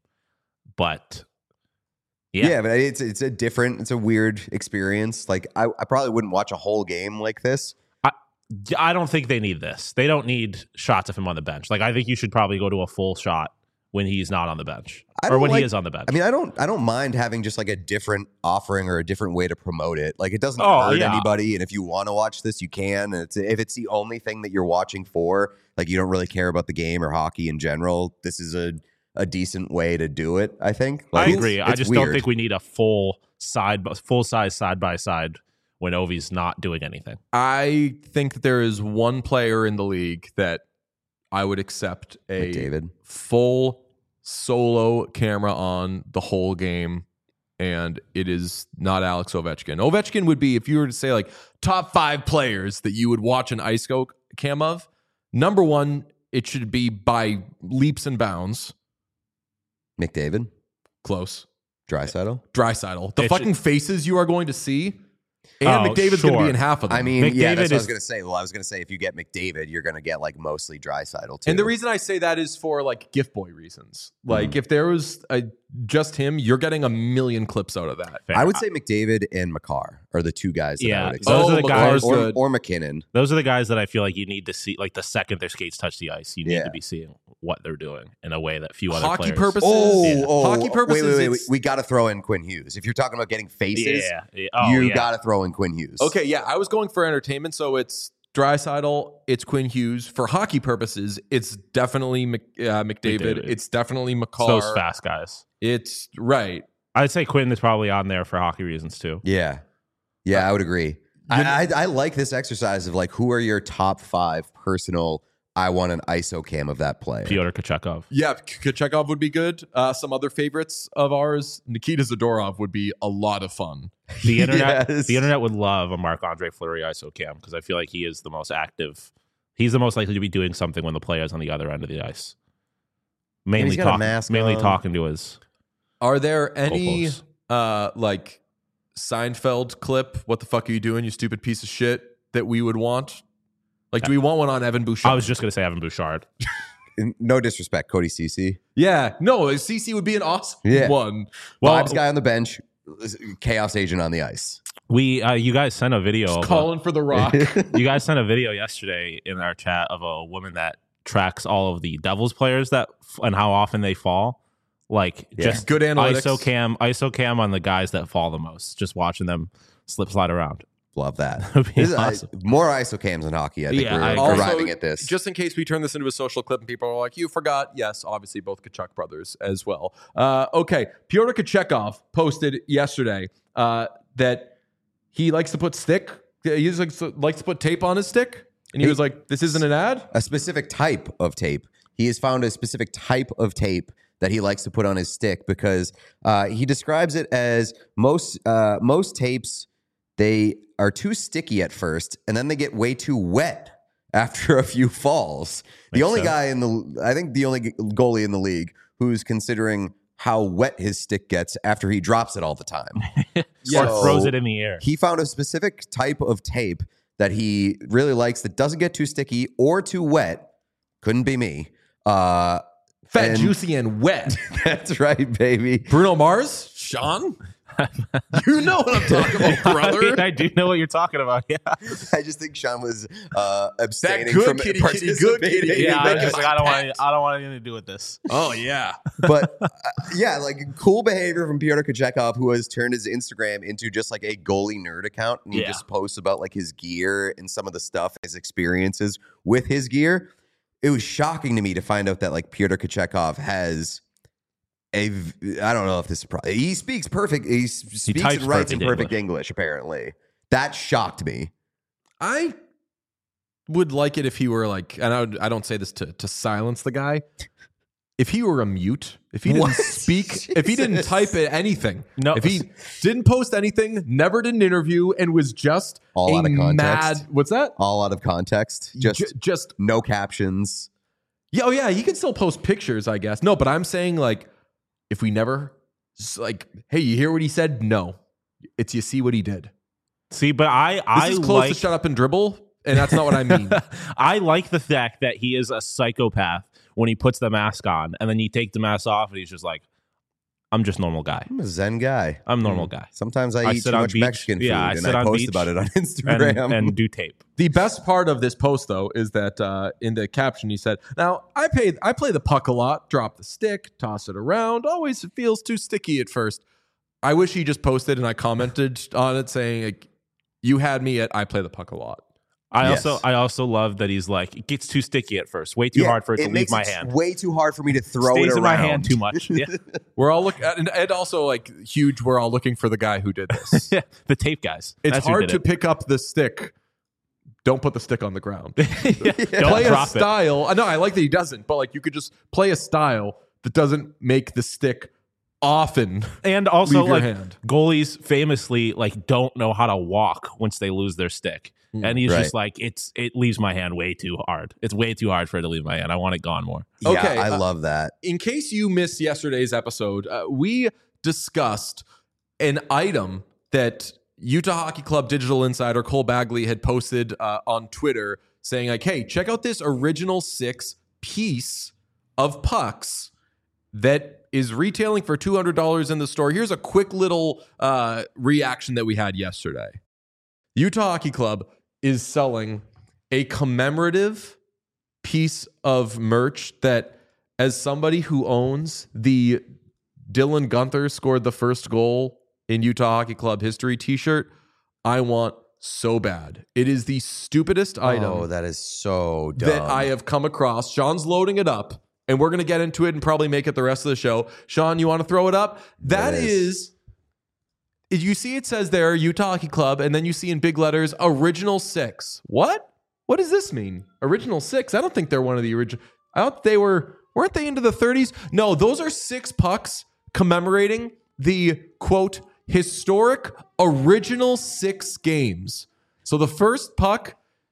but Yeah. yeah, but it's it's a different, it's a weird experience. Like I, I probably wouldn't watch a whole game like this. I don't think they need this. They don't need shots of him on the bench. Like I think you should probably go to a full shot when he's not on the bench I or don't when like- he is on the bench. I mean, I don't I don't mind having just like a different offering or a different way to promote it. Like it doesn't Oh, hurt yeah. anybody. And if you want to watch this, you can. And it's if it's the only thing that you're watching for, like you don't really care about the game or hockey in general, this is a a decent way to do it, I think. I Like, it's- agree. I it's just weird. don't think we need a full side, full size side by side when Ovi's not doing anything. I think that there is one player in the league that I would accept a McDavid. full solo camera on the whole game, and it is not Alex Ovechkin. Ovechkin would be, if you were to say like top five players that you would watch an ice go cam of, number one, it should be by leaps and bounds. McDavid, Close. Draisaitl. Draisaitl. The It fucking faces you are going to see And Oh, McDavid's going to sure. be in half of them. I mean, McDavid yeah, that's what I was is- going to say. Well, I was going to say if you get McDavid, you're going to get like mostly Draisaitl too. and the reason I say that is for like gift boy reasons. Like Mhm. if there was a, just him, you're getting a million clips out of that. Fair. I would say McDavid and Makar are the two guys that I Yeah, would expect. those Oh, are the Makar's guys. or, good. or McKinnon. Those are the guys that I feel like you need to see. Like the second their skates touch the ice, you need Yeah. to be seeing what they're doing in a way that few other Hockey players. purposes. Oh, Yeah. oh, Hockey purposes, Wait, wait, wait. wait. it's- We got to throw in Quinn Hughes. If you're talking about getting faces, Yeah, yeah. Oh, you yeah. got to throw in Quinn Hughes. Okay, yeah, I was going for entertainment, so it's Draisaitl, it's Quinn Hughes. For hockey purposes, it's definitely Mc, uh, McDavid. McDavid. It's definitely It's Makar. those fast guys. It's right. I'd say Quinn is probably on there for hockey reasons too. Yeah. Yeah, I would agree. I, I, I like this exercise of like, who are your top five personal, I want an I S O cam of that player. Pyotr Kochekov. Yeah, Kochekov would be good. Uh, some other favorites of ours, Nikita Zadorov would be a lot of fun. The internet, Yes. the internet would love a Marc-Andre Fleury I S O cam because I feel like he is the most active. He's the most likely to be doing something when the player's on the other end of the ice. Mainly he's got a talking, mask mainly on. talking to his Are there any goalposts. uh, like Seinfeld clip? What the fuck are you doing, you stupid piece of shit? That we would want. Like, do we want one on Evan Bouchard? I was just gonna say Evan Bouchard. No disrespect, Cody Cece. yeah, no, C C would be an awesome Yeah. one. Well, Vibes guy on the bench, chaos agent on the ice. we uh, you guys sent a video. Of a, Calling for the Rock. you guys sent a video yesterday in our chat of a woman that tracks all of the Devils players that and how often they fall. Like Yeah. just Good analytics. I S O cam, I S O cam on the guys that fall the most. Just watching them slip slide around. Love that. That would be This is, uh, awesome. more I S O cams in hockey. I think Yeah, we're I agree. arriving at this. Just in case we turn this into a social clip and people are like, you forgot. Yes, obviously both Kachuk brothers as well. Uh, okay. Pyotr Kochekov posted yesterday uh, that he likes to put stick. He just likes to, likes to put tape on his stick. And he Hey. was like, this isn't an ad? a specific type of tape. He has found a specific type of tape that he likes to put on his stick because uh, he describes it as most uh, most tapes, they are too sticky at first and then they get way too wet after a few falls. the Makes only sense. guy in the I think the only goalie in the league who's considering how wet his stick gets after he drops it all the time. Or So- throws it in the air. He found a specific type of tape that he really likes that doesn't get too sticky or too wet. Couldn't be me. Uh, Fat, and- juicy, and wet. that's right, baby. Bruno Mars? Sean? You know what I'm talking about, brother. I do know what you're talking about. Yeah, I just think Sean was uh, abstaining good from kitty, kitty, good participating kitty. in yeah. I was making just like, my I don't want. pet. I don't want anything to do with this. Oh, yeah. But uh, yeah, like cool behavior from Pyotr Kochekov, who has turned his Instagram into just like a goalie nerd account, and he Yeah. just posts about like his gear and some of the stuff, his experiences with his gear. It was shocking to me to find out that like Pyotr Kochekov has a v- I don't know if this is pro- he speaks perfect. He s- speaks types and writes in perfect perfect English. Apparently, that shocked me. I would like it if he were like, and I, would, I don't say this to, to silence the guy. If he were a mute, if he didn't What? speak, if he didn't Jesus. type it, anything, No. if he didn't post anything, never did an interview, and was just All a out of context. mad, what's that? All out of context, just J- just no captions. yeah, oh yeah, he can still post pictures, I guess. No, but I'm saying like, if we never s- like, hey, you hear what he said? No, it's you see what he did. See, but I, This I is close like. to shut up and dribble, and that's not what I mean. I like the fact that he is a psychopath when he puts the mask on, and then you take the mask off, and he's just like, "I'm just normal guy. I'm a Zen guy. I'm a normal guy." Sometimes I, I eat sit too on much beach. Mexican food, Yeah, I and sit I on post beach about it on And, Instagram. and do tape. The best part of this post, though, is that uh, in the caption he said, "Now I pay, I play the puck a lot. Drop the stick, toss it around. Always it feels too sticky at first. I wish he just posted and I commented on it saying, like, "You had me at I play the puck a lot." I Yes. also, I also love that he's like, it gets too sticky at first, way too Yeah, hard for it, to leave makes my it hand. way too hard for me to throw Stays it around. in my hand too much. Yeah, We're all looking, and, and also like huge. We're all looking for the guy who did this. yeah. The tape guys. It's That's who hard did to it. pick up the stick. Don't put the stick on the ground. Yeah, Don't play a drop it. style. I know I like that he doesn't, but like you could just play a style that doesn't make the stick often And also, leave your like hand. goalies famously like don't know how to walk once they lose their stick, and he's Right. just like, it's it leaves my hand way too hard. It's way too hard for it to leave my hand. I want it gone more. Yeah, Okay, I uh, love that. In case you missed yesterday's episode, uh, we discussed an item that Utah Hockey Club digital insider Cole Bagley had posted uh, on Twitter saying like, hey, check out this original six piece of pucks that is retailing for two hundred dollars in the store. Here's a quick little uh, reaction that we had yesterday. Utah Hockey Club is selling a commemorative piece of merch that, as somebody who owns the Dylan Guenther scored the first goal in Utah Hockey Club history t-shirt, I want so bad. It is the stupidest item. Oh, that is so dumb. That I have come across. Sean's loading it up, and we're going to get into it and probably make it the rest of the show. Sean, you want to throw it up? That Yes. is... You see it says there, Utah Hockey Club, and then you see in big letters, Original Six. What? What does this mean? Original Six? I don't think they're one of the original... I thought they were... Weren't they into the thirties? No, those are six pucks commemorating the, quote, historic original six games. So the first puck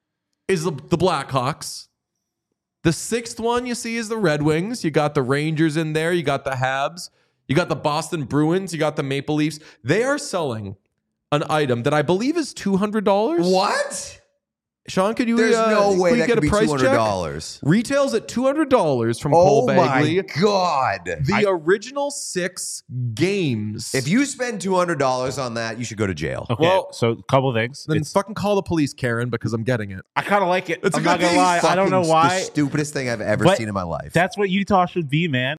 is the, the Blackhawks. The sixth one you see is the Red Wings. You got the Rangers in there. You got the Habs. You got the Boston Bruins. You got the Maple Leafs. They are selling an item that I believe is two hundred dollars. What? Sean, could you? There's uh, no way we that get could a be price two hundred dollars. check? Retails at two hundred dollars from Cole Oh Bagley. my God. The I- original six games. If you spend two hundred dollars on that, you should go to jail. Okay, Well- so a couple things. then It's, fucking call the police, Karen, because I'm getting it. I kind of like it. It's a I'm good not gonna thing. lie. I don't know Fucking why. The stupidest thing I've ever But seen in my life. That's what Utah should be, man.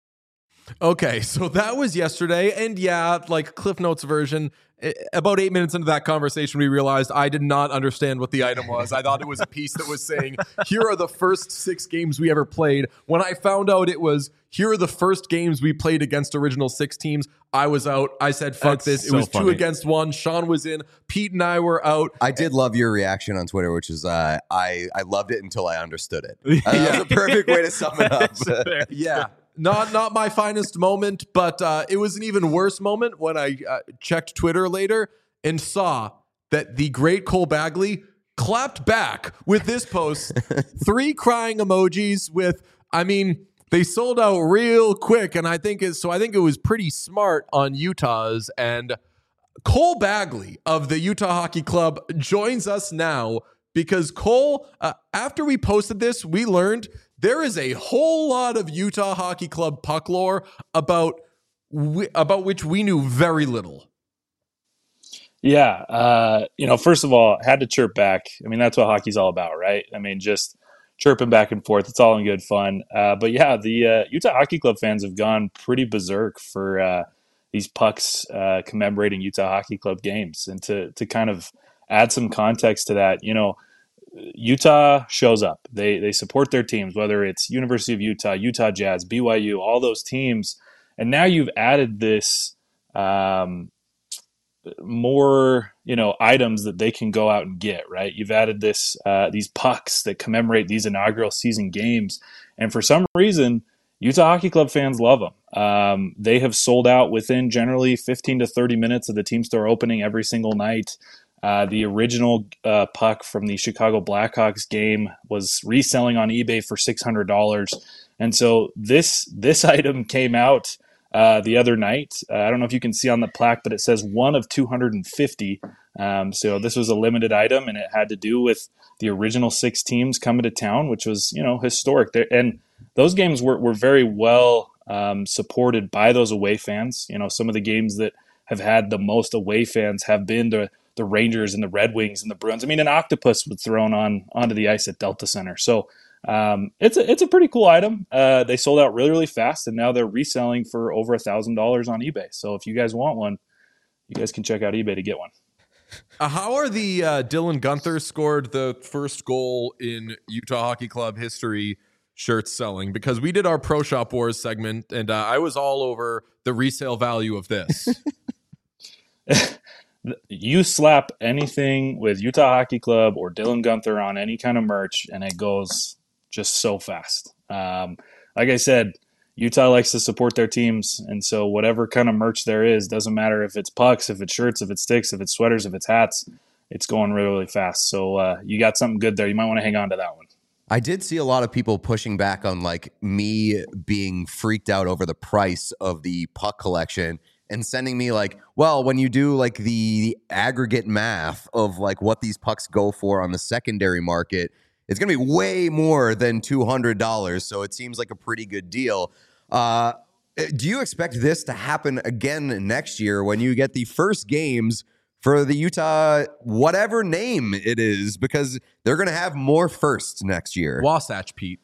Okay, so that was yesterday, and yeah, like Cliff Notes version. i- About eight minutes into that conversation, we realized I did not understand what the item was. I thought it was a piece that was saying, "Here are the first six games we ever played." When I found out it was, "Here are the first games we played against original six teams," I was out. I said, "Fuck That's this!" It so was two funny. against one. Sean was in. Pete and I were out. I did love your reaction on Twitter, which is uh, I I loved it until I understood it. Uh, That was a perfect way to sum it up. Yeah. Not not my finest moment, but uh, it was an even worse moment when I uh, checked Twitter later and saw that the great Cole Bagley clapped back with this post. Three crying emojis with, I mean, they sold out real quick, and I think it's so I think it was pretty smart on Utah's. And Cole Bagley of the Utah Hockey Club joins us now because Cole, uh, after we posted this, we learned there is a whole lot of Utah Hockey Club puck lore about we, about which we knew very little. Yeah, uh, you know, first of all, had to chirp back. I mean, that's what hockey's all about, right? I mean, just chirping back and forth. It's all in good fun. Uh, but yeah, the uh, Utah Hockey Club fans have gone pretty berserk for uh, these pucks uh, commemorating Utah Hockey Club games. And to to kind of add some context to that, you know, Utah shows up. They they support their teams, whether it's University of Utah, Utah Jazz, B Y U, all those teams. And now you've added this um, more, you know, items that they can go out and get, right? You've added this uh, these pucks that commemorate these inaugural season games. And for some reason, Utah Hockey Club fans love them. Um, they have sold out within generally fifteen to thirty minutes of the team store opening every single night. Uh, the original uh, puck from the Chicago Blackhawks game was reselling on eBay for six hundred dollars. And so this this item came out uh, the other night. Uh, I don't know if you can see on the plaque, but it says one of two hundred fifty. Um, so this was a limited item, and it had to do with the original six teams coming to town, which was, you know, historic. There, and those games were, were very well um, supported by those away fans. You know, some of the games that have had the most away fans have been the the Rangers and the Red Wings and the Bruins. I mean, an octopus was thrown on onto the ice at Delta Center. So um, it's a it's a pretty cool item. Uh, they sold out really, really fast, and now they're reselling for over a thousand dollars on eBay. So if you guys want one, you guys can check out eBay to get one. Uh, how are the uh, Dylan Guenther scored the first goal in Utah Hockey Club history shirts selling? Because we did our Pro Shop Wars segment, and uh, I was all over the resale value of this. You slap anything with Utah Hockey Club or Dylan Guenther on any kind of merch, and it goes just so fast. Um, like I said, Utah likes to support their teams, and so whatever kind of merch there is, doesn't matter if it's pucks, if it's shirts, if it's sticks, if it's sweaters, if it's hats, it's going really, really fast. So uh, you got something good there. You might want to hang on to that one. I did see a lot of people pushing back on like me being freaked out over the price of the puck collection. and sending me like, well, when you do like the, the aggregate math of like what these pucks go for on the secondary market, it's going to be way more than two hundred dollars. So it seems like a pretty good deal. Uh, do you expect this to happen again next year when you get the first games for the Utah, whatever name it is, because they're going to have more firsts next year? Wasatch, Pete.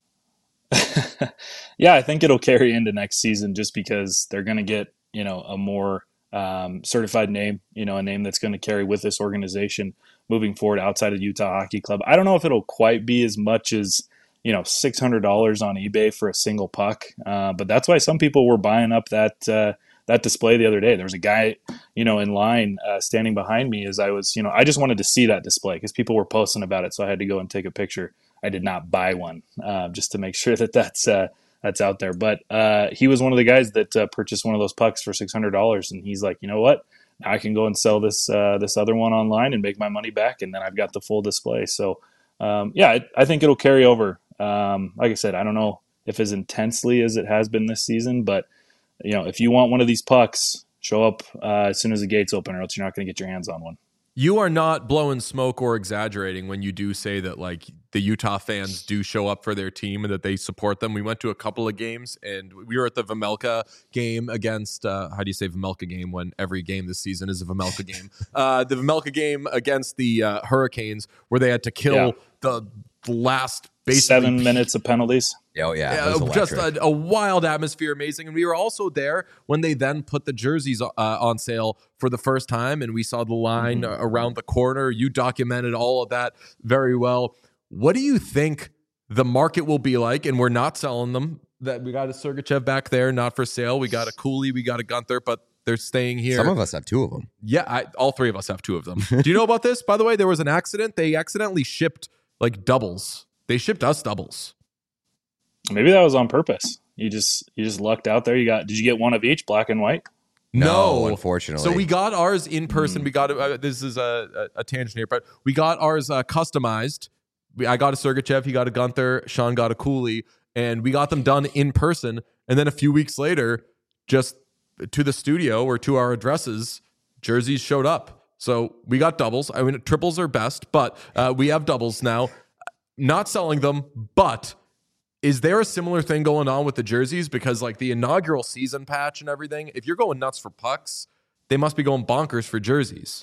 Yeah, I think it'll carry into next season just because they're going to get, you know, a more um, certified name, you know, a name that's going to carry with this organization moving forward outside of Utah Hockey Club. I don't know if it'll quite be as much as, you know, six hundred dollars on eBay for a single puck. Uh, but that's why some people were buying up that, uh, that display the other day. There was a guy, you know, in line uh, standing behind me as I was, you know, I just wanted to see that display because people were posting about it. So I had to go and take a picture. I did not buy one uh, just to make sure that that's, uh, that's out there. But uh, he was one of the guys that uh, purchased one of those pucks for six hundred dollars. And he's like, you know what? Now I can go and sell this, uh, this other one online and make my money back. And then I've got the full display. So um, yeah, I, I think it'll carry over. Um, like I said, I don't know if as intensely as it has been this season, but you know, if you want one of these pucks, show up uh, as soon as the gates open, or else you're not going to get your hands on one. You are not blowing smoke or exaggerating when you do say that like the Utah fans do show up for their team and that they support them. We went to a couple of games and we were at the Vejmelka game against, uh, how do you say Vejmelka game when every game this season is a Vejmelka game? Uh, the Vejmelka game against the uh, Hurricanes where they had to kill yeah. the last basically seven minutes of penalties. Oh, yeah. yeah just a, a wild atmosphere, amazing. And we were also there when they then put the jerseys uh, on sale for the first time, and we saw the line mm-hmm. around the corner. You documented all of that very well. What do you think the market will be like? And we're not selling them. That we got a Sergachev back there, not for sale. We got a Cooley, we got a Gunther, but they're staying here. Some of us have two of them. Yeah, I, all three of us have two of them. Do you know about this? By the way, there was an accident. They accidentally shipped like doubles. They shipped us doubles. Maybe that was on purpose. You just you just lucked out there. You got did you get one of each, black and white? No, no unfortunately. So we got ours in person. Mm. We got uh, this is a, a, a tangent here, but we got ours uh, customized. We, I got a Sergachev, he got a Gunther, Sean got a Cooley, and we got them done in person. And then a few weeks later, just to the studio or to our addresses, jerseys showed up. So we got doubles. I mean, triples are best, but uh, we have doubles now. Not selling them, but is there a similar thing going on with the jerseys? Because like the inaugural season patch and everything, if you're going nuts for pucks, they must be going bonkers for jerseys.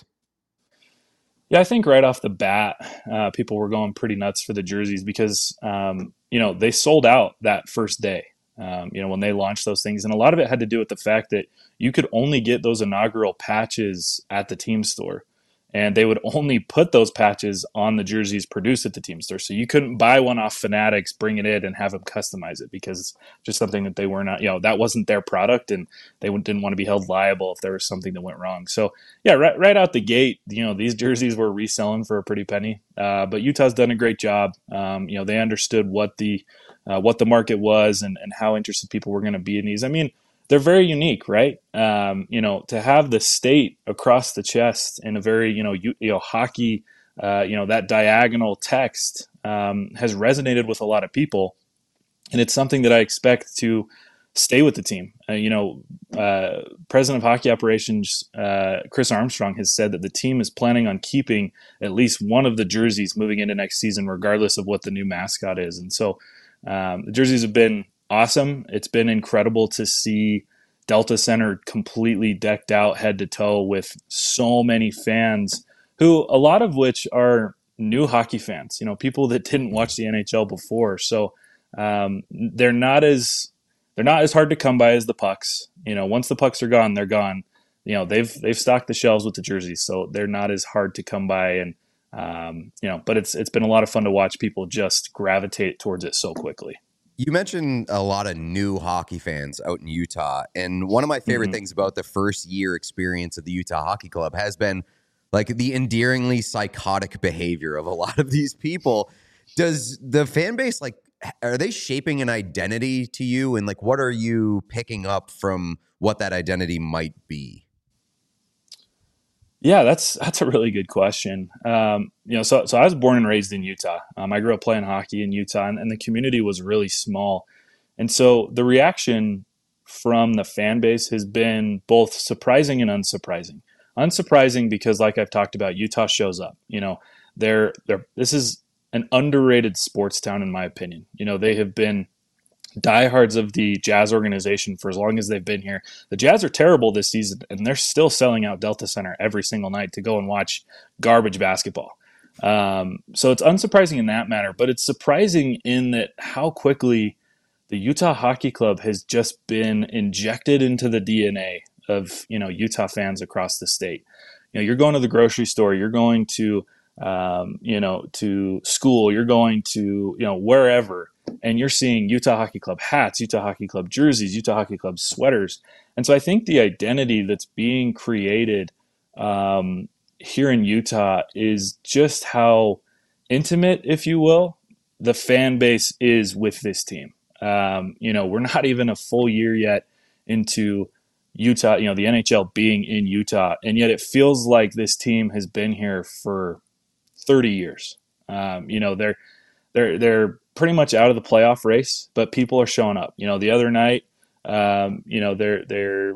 Yeah, I think right off the bat, uh, people were going pretty nuts for the jerseys because, um, you know, they sold out that first day, um, you know, when they launched those things. And a lot of it had to do with the fact that you could only get those inaugural patches at the team store. And they would only put those patches on the jerseys produced at the team store. So you couldn't buy one off Fanatics, bring it in, and have them customize it because it's just something that they were not, you know, that wasn't their product and they didn't want to be held liable if there was something that went wrong. So, yeah, right, right out the gate, you know, these jerseys were reselling for a pretty penny. Uh, but Utah's done a great job. Um, you know, they understood what the uh, what the market was and, and how interested people were going to be in these. I mean, they're very unique, right? Um, you know, to have the state across the chest in a very, you know, you, you know, hockey, uh, you know, that diagonal text um, has resonated with a lot of people, and it's something that I expect to stay with the team. Uh, you know, uh, President of Hockey Operations uh, Chris Armstrong has said that the team is planning on keeping at least one of the jerseys moving into next season, regardless of what the new mascot is, and so um, the jerseys have been awesome. It's been incredible to see Delta Center completely decked out head to toe with so many fans who, a lot of which are new hockey fans, you know, people that didn't watch the N H L before. So um, they're not as they're not as hard to come by as the pucks. You know, once the pucks are gone, they're gone. You know, they've they've stocked the shelves with the jerseys, so they're not as hard to come by. And um, you know, but it's it's been a lot of fun to watch people just gravitate towards it so quickly. You mentioned a lot of new hockey fans out in Utah, and one of my favorite mm-hmm. things about the first year experience of the Utah Hockey Club has been like the endearingly psychotic behavior of a lot of these people. Does the fan base, like, are they shaping an identity to you, and like what are you picking up from what that identity might be? Yeah, that's that's a really good question. Um, you know, so so I was born and raised in Utah. Um, I grew up playing hockey in Utah, and, and the community was really small. And so the reaction from the fan base has been both surprising and unsurprising. Unsurprising because, like I've talked about, Utah shows up. You know, they're they're this is an underrated sports town in my opinion. You know, they have been diehards of the Jazz organization for as long as they've been here. The Jazz are terrible this season, and they're still selling out Delta Center every single night to go and watch garbage basketball. Um, so it's unsurprising in that matter, but it's surprising in that how quickly the Utah Hockey Club has just been injected into the D N A of, you know, Utah fans across the state. You know, you're going to the grocery store, you're going to, um, you know, to school, you're going to, you know, wherever, and you're seeing Utah Hockey Club hats, Utah Hockey Club jerseys, Utah Hockey Club sweaters. And so I think the identity that's being created um, here in Utah is just how intimate, if you will, the fan base is with this team. Um, you know, we're not even a full year yet into Utah, you know, the N H L being in Utah, and yet it feels like this team has been here for thirty years. Um, you know, they're they're they're pretty much out of the playoff race, but people are showing up. You know, the other night, um, you know, they're they're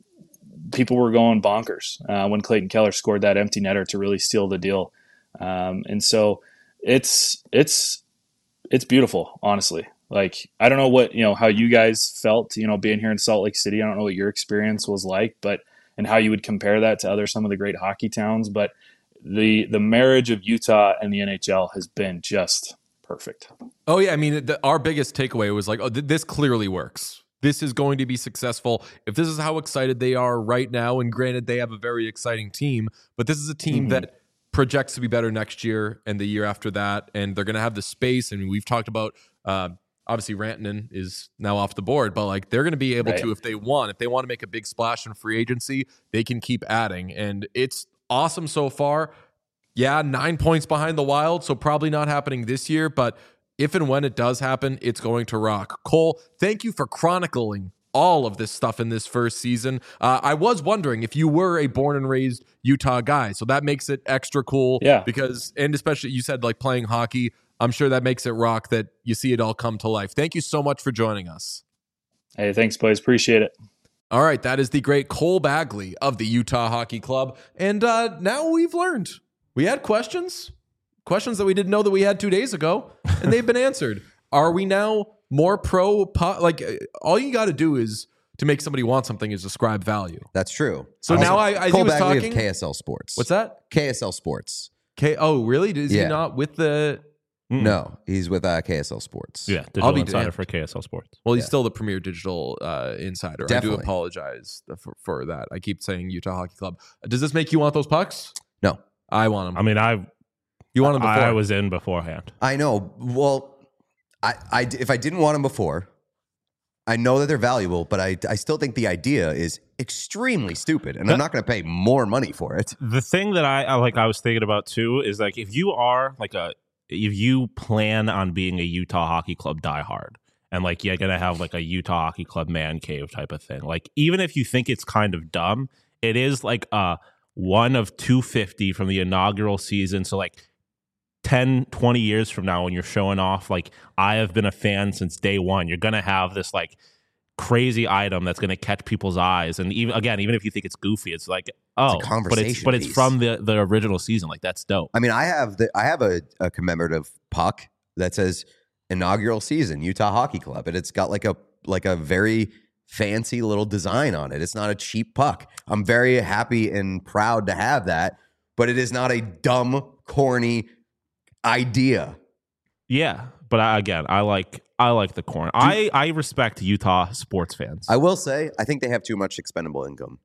people were going bonkers uh, when Clayton Keller scored that empty netter to really seal the deal. Um, and so it's it's it's beautiful, honestly. Like, I don't know what, you know, how you guys felt, you know, being here in Salt Lake City. I don't know what your experience was like, but, and how you would compare that to other, some of the great hockey towns. But the, the marriage of Utah and the N H L has been just perfect. Oh yeah. I mean, the, our biggest takeaway was like, oh, th- this clearly works. This is going to be successful. If this is how excited they are right now, and granted they have a very exciting team, but this is a team mm-hmm. that projects to be better next year and the year after that. And they're going to have the space. I mean, we've talked about, uh, obviously, Rantanen is now off the board, but like they're going to be able right. to, if they want, if they want to make a big splash in free agency, they can keep adding. And it's awesome so far. Yeah, nine points behind the Wild, so probably not happening this year, but if and when it does happen, it's going to rock. Cole, thank you for chronicling all of this stuff in this first season. Uh, I was wondering if you were a born and raised Utah guy, so that makes it extra cool. Yeah. Because, and especially you said like playing hockey, I'm sure that makes it rock that you see it all come to life. Thank you so much for joining us. Hey, thanks, boys. Appreciate it. All right, that is the great Cole Bagley of the Utah Hockey Club. And uh, now we've learned. We had questions, questions that we didn't know that we had two days ago, and they've been answered. Are we now more pro? Po- like, all you got to do is to make somebody want something is ascribe value. That's true. So also, now I, I Cole was Bagley talking. Of K S L Sports. What's that? K S L Sports. K. Oh, really? Is yeah. he not with the? Mm. No, he's with uh, K S L Sports. Yeah, digital I'll be insider damned. for K S L Sports. Well, he's yeah. still the premier digital uh, insider. Definitely. I do apologize for, for that. I keep saying Utah Hockey Club. Does this make you want those pucks? No, I want them. I mean, I you want them before? I was in beforehand. I know. Well, I, I if I didn't want them before, I know that they're valuable, but I I still think the idea is extremely stupid, and I'm not going to pay more money for it. The thing that I, I like, I was thinking about too, is like if you are like a if you plan on being a Utah Hockey Club diehard, and like you're gonna have like a Utah Hockey Club man cave type of thing, like even if you think it's kind of dumb, it is like a one of two fifty from the inaugural season. So like ten, twenty years from now, when you're showing off, like I have been a fan since day one, you're gonna have this like crazy item that's gonna catch people's eyes. And even again, even if you think it's goofy, it's like, oh, it's but it's but it's piece. from the, the original season. Like that's dope. I mean, I have the I have a, a commemorative puck that says inaugural season Utah Hockey Club, and it's got like a like a very fancy little design on it. It's not a cheap puck. I'm very happy and proud to have that, but it is not a dumb, corny idea. Yeah, but I, again, I like I like the corn. I, I respect Utah sports fans. I will say, I think they have too much expendable income.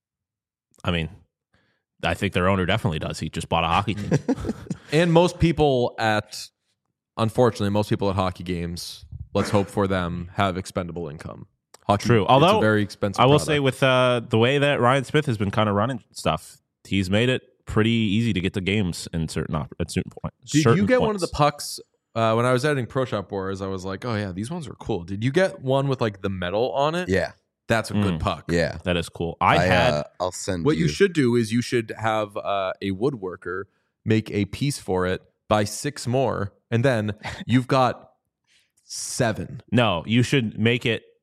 I mean, I think their owner definitely does. He just bought a hockey team. And most people at, unfortunately, most people at hockey games, let's hope for them, have expendable income. Hockey, True. Although, it's a very expensive I will product. say with uh, the way that Ryan Smith has been kind of running stuff, he's made it pretty easy to get to games in certain op- at certain points. Did certain you get points. one of the pucks uh, when I was editing Pro Shop Wars? I was like, oh yeah, these ones are cool. Did you get one with like the metal on it? Yeah, that's a Mm. good puck. yeah. That is cool. I, I had. Uh, I'll send. What you. you should do is you should have uh, a woodworker make a piece for it, buy six more, and then you've got seven. No, you should make it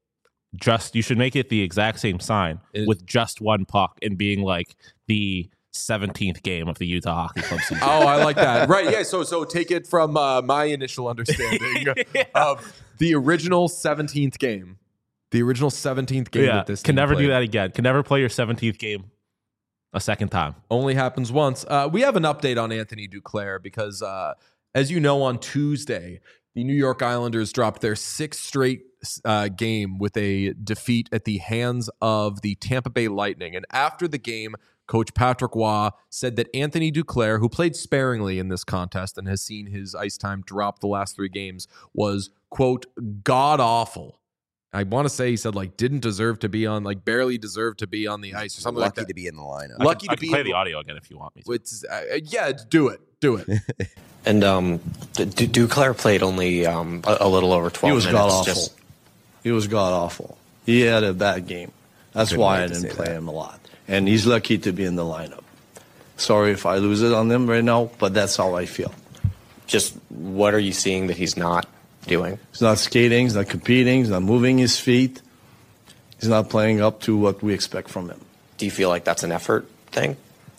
just you should make it the exact same sign It- with just one puck and being like the seventeenth game of the Utah Hockey Club season. Oh, I like that. Right. Yeah. So so take it from uh, my initial understanding Yeah. of the original seventeenth game. The original seventeenth game yeah, that this can team never played. do that again. Can never play your seventeenth game a second time. Only happens once. Uh, we have an update on Anthony Duclair because, uh, as you know, on Tuesday, the New York Islanders dropped their sixth straight uh, game with a defeat at the hands of the Tampa Bay Lightning. And after the game, Coach Patrick Waugh said that Anthony Duclair, who played sparingly in this contest and has seen his ice time drop the last three games, was, quote, god-awful. I want to say he said, like, didn't deserve to be on, like, barely deserved to be on the ice or something Lucky like that. to be in the lineup. Lucky I to can be play in- the audio again if you want me to. It's, uh, yeah, do it. Do it. And um, D- D- Duclair played only um, a, a little over twelve He was minutes. god awful. Just, He was god awful. He had a bad game. That's Couldn't why wait I to didn't say play that. him a lot. And he's lucky to be in the lineup. Sorry if I lose it on him right now, but that's how I feel. just what are you seeing that he's not doing? He's not skating. He's not competing. He's not moving his feet. He's not playing up to what we expect from him. Do you feel like that's an effort thing?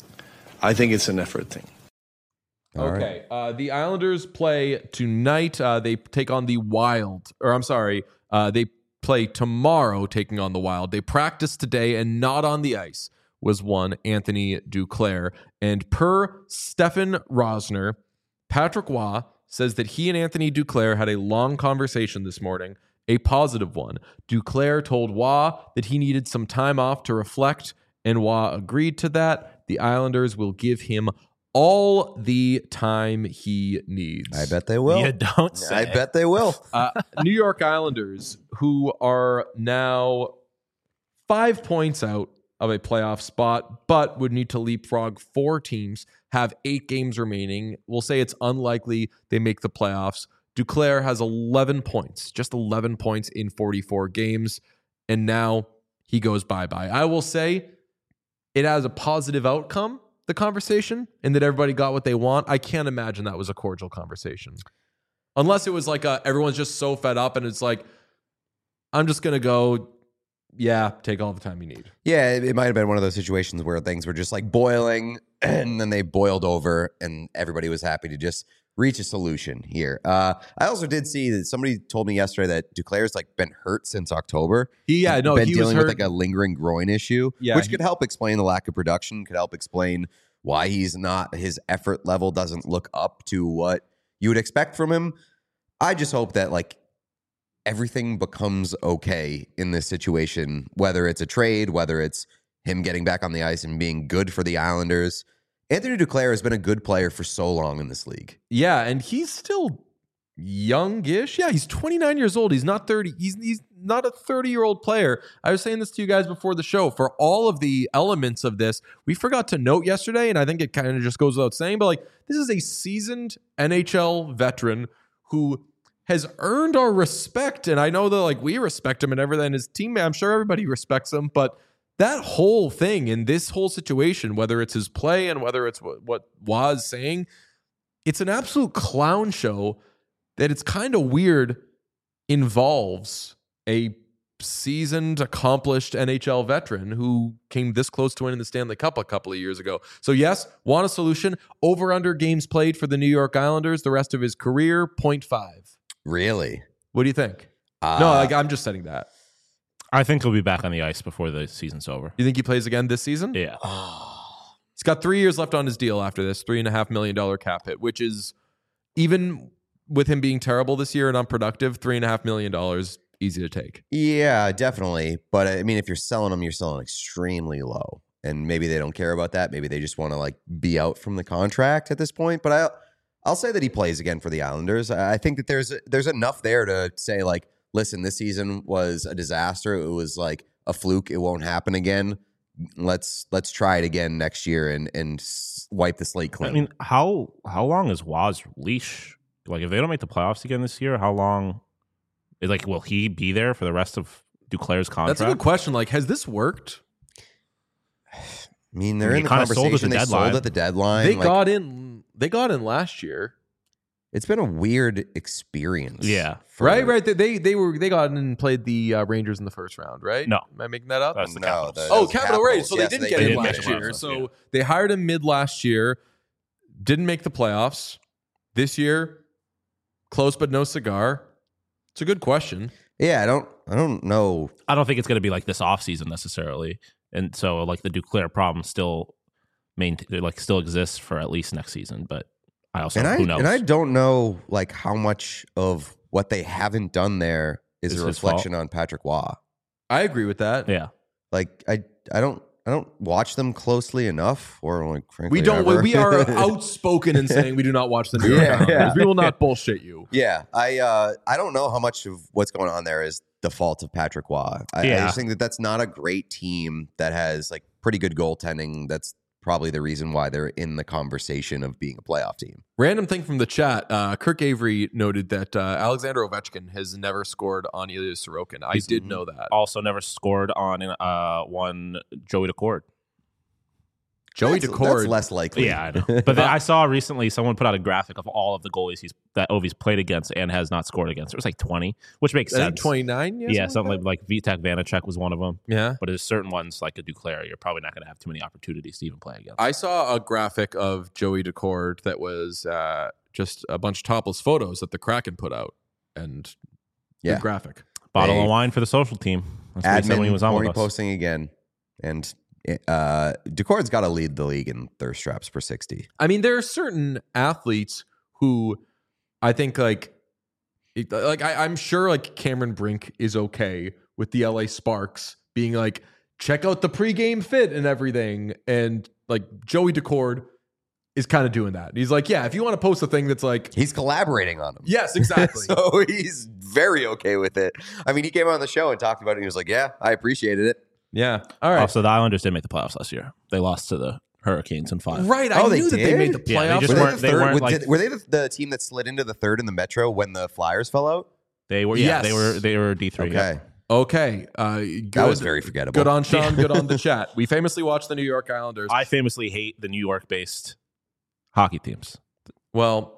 I think it's an effort thing. All right. Okay. Uh, the Islanders play tonight. Uh, they take on the Wild. Or I'm sorry. Uh, they play tomorrow taking on the Wild. They practice today and not on the ice was one Anthony Duclair. And per Stefan Rosner, Patrick Waugh says that he and Anthony Duclair had a long conversation this morning, a positive one. Duclair told Waugh that he needed some time off to reflect, and Waugh agreed to that. The Islanders will give him all the time he needs. I bet they will. You don't say. I bet they will. Uh, New York Islanders, who are now five points out of a playoff spot, but would need to leapfrog four teams, have eight games remaining. We'll say it's unlikely they make the playoffs. Duclair has eleven points, just eleven points in forty-four games, and now he goes bye-bye. I will say it has a positive outcome, the conversation, and that everybody got what they want. I can't imagine that was a cordial conversation. Unless it was like a, everyone's just so fed up and it's like, I'm just going to go, yeah, take all the time you need. Yeah, it, it might have been one of those situations where things were just like boiling and then they boiled over and everybody was happy to just reach a solution here. Uh, I also did see that somebody told me yesterday that Duclair's like been hurt since October. He, yeah, no, been he dealing was with hurt. like a lingering groin issue, Yeah, which he- could help explain the lack of production, could help explain why he's not, his effort level doesn't look up to what you would expect from him. I just hope that like everything becomes okay in this situation, whether it's a trade, whether it's him getting back on the ice and being good for the Islanders. Anthony Duclair has been a good player for so long in this league. Yeah, and he's still youngish. Yeah, he's twenty-nine years old. He's not thirty. He's he's not a thirty-year-old player. I was saying this to you guys before the show. For all of the elements of this, we forgot to note yesterday, and I think it kind of just goes without saying, but like this is a seasoned N H L veteran who has earned our respect. And I know that like we respect him and everything. His team, I'm sure everybody respects him, but that whole thing in this whole situation, whether it's his play and whether it's what, what was saying, it's an absolute clown show that it's kind of weird involves a seasoned, accomplished N H L veteran who came this close to winning the Stanley Cup a couple of years ago. So yes, want a solution. Over under games played for the New York Islanders the rest of his career, point five. Really? What do you think? Uh, no, like I'm just setting that. I think he'll be back on the ice before the season's over. You think he plays again this season? Yeah. He's got three years left on his deal after this, three and a half million dollar cap hit, which is even with him being terrible this year and unproductive, three and a half million dollars easy to take. Yeah, definitely. But I mean, if you're selling them, you're selling extremely low. And maybe they don't care about that. Maybe they just want to like be out from the contract at this point. But I, I'll say that he plays again for the Islanders. I think that there's there's enough there to say like, listen, this season was a disaster. It was like a fluke. It won't happen again. Let's let's try it again next year and and wipe the slate clean. I mean, how how long is Waugh's leash? Like, if they don't make the playoffs again this year, how long? Like, will he be there for the rest of Duclair's contract? That's a good question. Like, has this worked? I mean, they're I mean, in the he kinda sold at conversation. the They deadline. sold at the deadline. They Like, got in. They got in last year. It's been a weird experience. Yeah. for- Right, right. They- They they were they got in and played the uh, Rangers in the first round, right? No. Am I making that up? That's the No, Capitals. the- Oh, those Capital Rays. So Capitals. they Yes, didn't they get did in make last the year. playoffs, So yeah. they hired him mid last year, didn't make the playoffs. This year, close but no cigar. It's a good question. Yeah, I don't. I don't know. I don't think it's going to be like this offseason necessarily. And so like the Duclair problem still main like still exists for at least next season, but I also And I who knows. and I don't know like how much of what they haven't done there is Is a his reflection on Patrick Waugh. I agree with that. yeah. Like I, I don't. I don't watch them closely enough, or like frankly, We don't. ever. We are outspoken in saying we do not watch the New York Yeah, Islanders. yeah. We will not bullshit you. Yeah, I uh, I don't know how much of what's going on there is the fault of Patrick Waugh. I, I Yeah. just think that that's not a great team that has like pretty good goaltending. That's probably the reason why they're in the conversation of being a playoff team. Random thing from the chat. Uh, Kirk Avery noted that uh, Alexander Ovechkin has never scored on Ilya Sorokin. I did know that. Also never scored on uh one Joey Decord. Joey that's, Decord. that's less likely. Yeah, I know. But then I saw recently someone put out a graphic of all of the goalies he's that Ovi's played against and has not scored against. It was like twenty, which makes I think sense. twenty-nine. Yeah, something like, like Vitek Vanacek was one of them. Yeah. But there's certain ones like a Duclair, you're probably not going to have too many opportunities to even play against. I saw a graphic of Joey Decord that was uh, just a bunch of topless photos that the Kraken put out, and Yeah. good graphic. Bottle Hey. of wine for the social team. That's what he said when he Admin was on horny with us. posting again, and uh, Decord's got to lead the league in thirst traps per sixty. I mean, there are certain athletes who I think like, it- like I, I'm sure like Cameron Brink is okay with the L A Sparks being like, check out the pregame fit and everything, and like Joey Decord is kind of doing that. He's like, yeah, if you want to post a thing that's like, He's collaborating on them. yes, exactly. So he's very okay with it. I mean, he came on the show and talked about it. And he was like, "Yeah, I appreciated it." yeah. All right. Also, the Islanders did make the playoffs last year. They lost to the Hurricanes in five. Right. I Oh, they knew that they did? made the Yeah, they playoffs. just Were they, weren't- the they third, weren't were, like- did- were they the, the team that slid into the third in the Metro when the Flyers fell out? They were, yeah, Yes. they were, they were D three. Okay, Okay. Uh, good, that was very forgettable. good on Sean. Good on the chat. We famously watched the New York Islanders. I famously hate the New York-based hockey teams. well,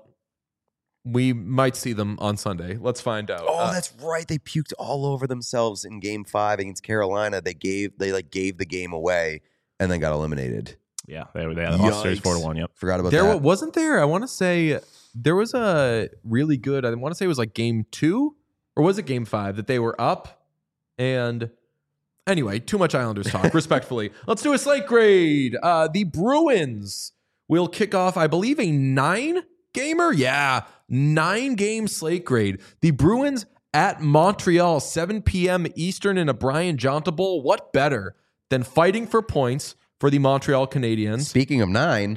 we might see them on Sunday. Let's find out. Oh, Uh, that's right. They puked all over themselves in Game Five against Carolina. They gave they like gave the game away and then got eliminated. Yeah, they were. They had lost series Yikes. four to one. Yep. Forgot about there that. wa- wasn't there. I want to say there was a really good. I want to say it was like game two or was it game five that they were up and. Anyway, too much Islanders talk. Respectfully, let's do a slate grade. Uh, the Bruins will kick off, I believe, a nine gamer. Yeah, nine game slate grade. The Bruins at Montreal, seven p.m. Eastern in a Brian Jonta Bowl. What better than fighting for points for the Montreal Canadiens? Speaking of nine,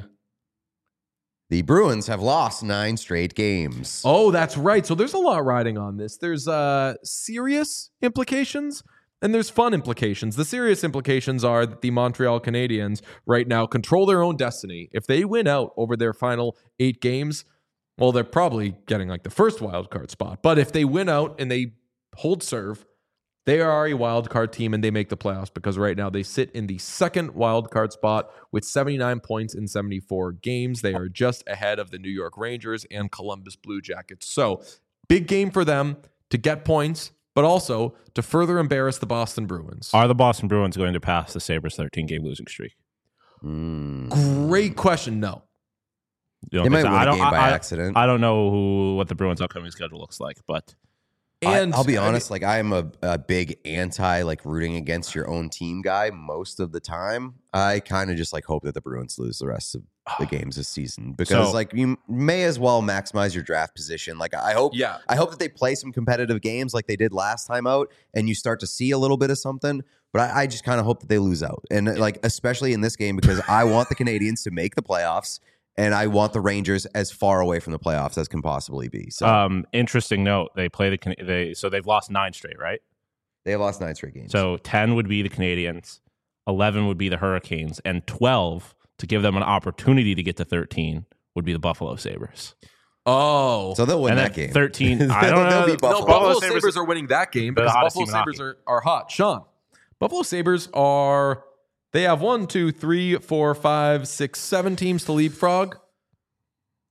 the Bruins have lost nine straight games. Oh, that's right. So there's a lot riding on this. There's uh, serious implications and there's fun implications. The serious implications are that the Montreal Canadiens right now control their own destiny. If they win out over their final eight games, well, they're probably getting like the first wild card spot. But if they win out and they hold serve, they are a wild card team and they make the playoffs because right now they sit in the second wild card spot with seventy-nine points in seventy-four games. They are just ahead of the New York Rangers and Columbus Blue Jackets. So big game for them to get points, but also to further embarrass the Boston Bruins. Are the Boston Bruins going to pass the Sabres' thirteen game losing streak? Mm. Great question. No. You know, They might 'cause win I a don't, game by I, accident. I don't know who what the Bruins' upcoming schedule looks like, but And I, I'll be honest, like I am a, a big anti like rooting against your own team guy most of the time. I kind of just like hope that the Bruins lose the rest of the games this season because So- like you may as well maximize your draft position. Like I hope, Yeah. I hope that they play some competitive games like they did last time out, and you start to see a little bit of something. But I, I just kind of hope that they lose out, and like especially in this game because I want the Canadians to make the playoffs. And I want the Rangers as far away from the playoffs as can possibly be. So um, interesting note: they play the Can- they so they've lost nine straight, right? they have lost nine straight games. So ten would be the Canadians, eleven would be the Hurricanes, and twelve to give them an opportunity to get to thirteen would be the Buffalo Sabres. oh. So they'll win and that then game. thirteen. I They'll- don't they'll know. beat Buffalo. No, Buffalo Buffalo Sabres, Sabres are winning that game They're the because hottest Buffalo team in Sabres are, are hot. Sean, Buffalo Sabres are, they have one, two, three, four, five, six, seven teams to leapfrog, but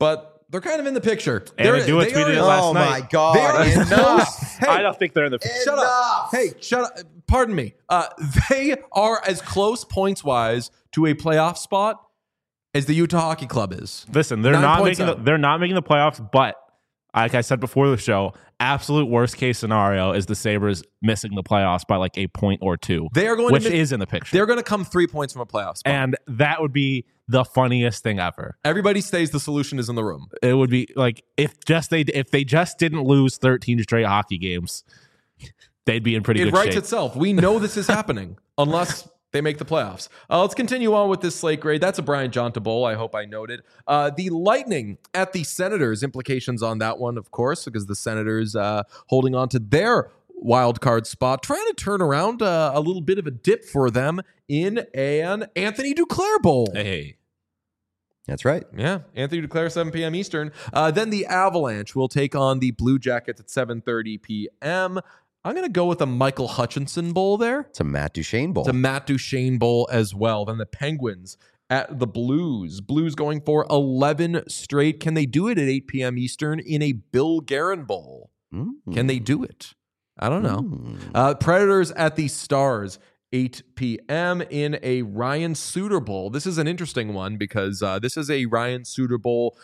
they're kind of in the picture. And They're, Adua they tweeted it are, last oh night. my they God! are as Enough. close. Hey, I don't think they're in the picture. shut up. Hey, shut up. Pardon me. Uh, they are as close points wise to a playoff spot as the Utah Hockey Club is. Listen, they're Nine not points making the, out. they're not making the playoffs, but like I said before the show, absolute worst case scenario is the Sabres missing the playoffs by like a point or two. They are going which to miss, is in the picture. They're going to come three points from a playoff spot. And that would be the funniest thing ever. Everybody stays. The solution is in the room. It would be like if just they if they just didn't lose thirteen straight hockey games, they'd be in pretty It good writes shape. itself. We know this is happening unless they make the playoffs. Uh, let's continue on with this slate grade. That's a Brian Jonta Bowl. I hope I noted. Uh, the Lightning at the Senators. Implications on that one, of course, because the Senators uh, holding on to their wild card spot, trying to turn around uh, a little bit of a dip for them in an Anthony Duclair Bowl. Hey, That's right. Yeah, Anthony Duclair, seven p.m. Eastern. Uh, then the Avalanche will take on the Blue Jackets at seven thirty p.m. I'm going to go with a Michael Hutchinson Bowl there. It's a Matt Duchene bowl. It's a Matt Duchene Bowl as well. Then the Penguins at the Blues. Blues going for eleven straight. Can they do it at eight p.m. Eastern in a Bill Guerin Bowl? Mm. Can they do it? I don't know. Mm. Uh, Predators at the Stars, eight p.m. in a Ryan Suter Bowl. This is an interesting one because uh, this is a Ryan Suter Bowl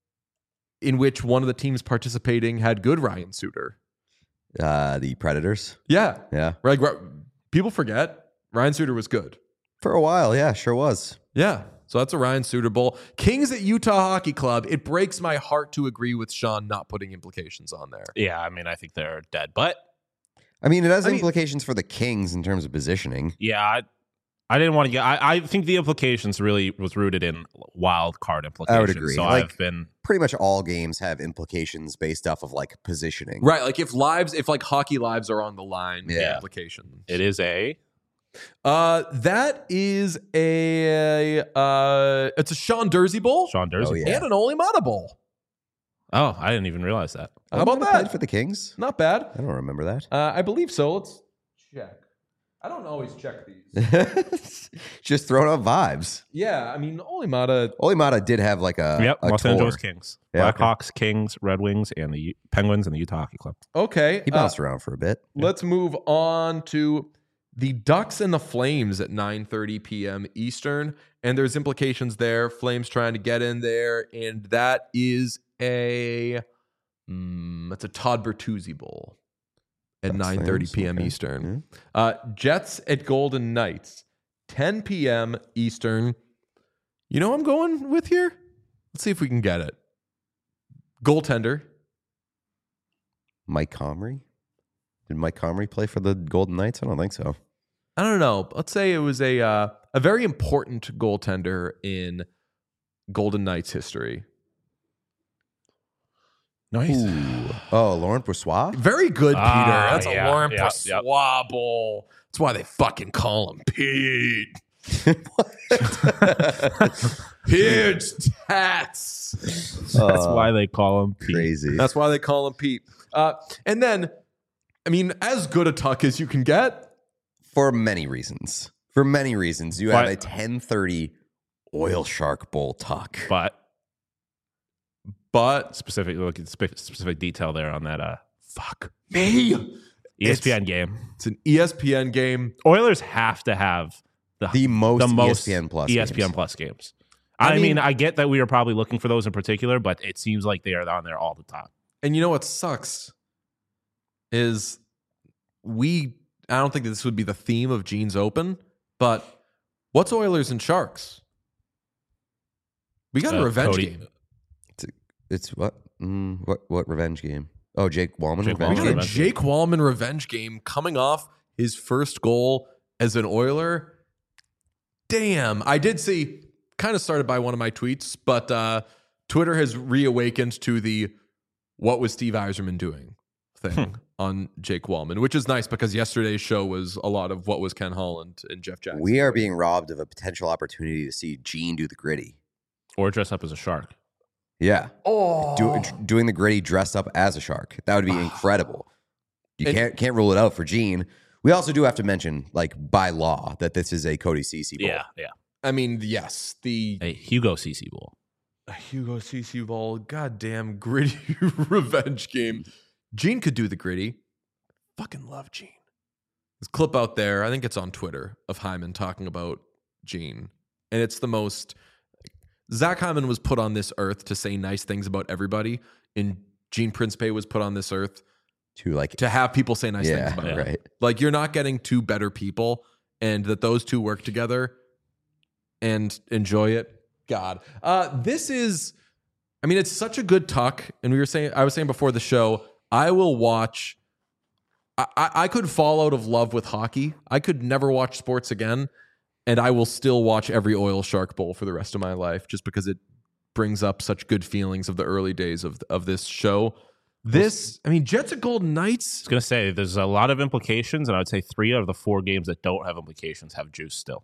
in which one of the teams participating had good Ryan Suter. Uh, the Predators. Yeah. Yeah. Like, people forget Ryan Suter was good. For a while, yeah, sure was. Yeah. So that's a Ryan Suter Bowl. Kings at Utah Hockey Club. It breaks my heart to agree with Sean not putting implications on there. yeah, I mean, I think they're dead, but I mean, it has I mean- implications for the Kings in terms of positioning. yeah, I, I didn't want to get. I, I think the implications really was rooted in wild card implications. I would agree. So Like- I've been Pretty much all games have implications based off of like positioning. Right. Like if lives, if like hockey lives are on the line, Yeah. implications. it is a Uh, that is a, uh, it's a Sean Dursey Bowl Sean Dursey. Oh, yeah. and an Ole Mata Bowl. Oh, I didn't even realize that. How about Might have played that? for the Kings? Not bad. I don't remember that. Uh, I believe so. Let's check. I don't always check these. Just throwing out vibes. Yeah. I mean, Ole Mata. Olimata did have like a, yep, a Los tour. Angeles Kings, Yeah, okay. Blackhawks, Kings, Red Wings, and the U- Penguins and the Utah Hockey Club. Okay. He uh, bounced around for a bit. Let's move on to the Ducks and the Flames at nine thirty p.m. Eastern. And there's implications there. Flames trying to get in there. And that is a mm, that's a Todd Bertuzzi Bowl at Ducks, nine thirty Flames, p.m. okay. Eastern. Uh, Jets at Golden Knights, ten p.m. Eastern. You know what I'm going with here? Let's see if we can get it. Goaltender. Mike Comrie? Did Mike Comrie play for the Golden Knights? I don't think so. I don't know. Let's say it was a uh, a very important goaltender in Golden Knights history. Nice. Ooh. Oh, Laurent Brossoit? Very good, Peter. Ah, That's a yeah, Lauren yeah, Brossoit Bowl. That's why they fucking call him Pete. Pete's tats. That's Uh, why they call him Pete. Crazy. That's why they call him Pete. Uh, and then, I mean, as good a tuck as you can get. For many reasons. For many reasons. You But- have a ten thirty Oil Shark Bowl tuck. But But specific, look at spe- specific detail there on that uh, fuck me. E S P N game. It's an E S P N game. Oilers have to have the The most, the most E S P N Plus E S P N games. Plus games. I I, mean, mean- I get that we are probably looking for those in particular, but it seems like they are on there all the time. And you know what sucks is we, I don't think that this would be the theme of Gene's Open, but what's Oilers and Sharks? We got a Uh, revenge Cody- game. It's what? Mm, what What revenge game? Oh, Jake Wallman Jake We revenge got Wallman a game? revenge Jake Wallman revenge game coming off his first goal as an Oiler. Damn. I did see, kind of started by one of my tweets, but uh, Twitter has reawakened to the what was Steve Yzerman doing thing on Jake Wallman, which is nice because yesterday's show was a lot of what was Ken Holland and Jeff Jackson. We are being robbed of a potential opportunity to see Gene do the gritty. Or dress up as a shark. Yeah. Oh. Do, doing the gritty dressed up as a shark. That would be incredible. You And- can't can't rule it out for Gene. We also do have to mention, like, by law, that this is a Cody Cece bowl. Yeah, yeah. I mean, yes, the A Hugo Cece Bowl. a Hugo Cece ball, goddamn gritty revenge game. Gene could do the gritty. Fucking love Gene. This clip out there, I think it's on Twitter, of Hyman talking about Gene. And it's the most... Zach Hyman was put on this earth to say nice things about everybody, and Gene Principe was put on this earth to like to have people say nice yeah, things about him. Right. Like, you're not getting two better people, and that those two work together and enjoy it. God. Uh, this is, I mean, it's such a good tuck. And we were saying, I was saying before the show, I will watch, I, I, I could fall out of love with hockey. I could never watch sports again. And I will still watch every Oil Shark Bowl for the rest of my life just because it brings up such good feelings of the early days of, of this show. This, I mean, Jets at Golden Knights. I was going to say, there's a lot of implications, and I would say three out of the four games that don't have implications have juice still.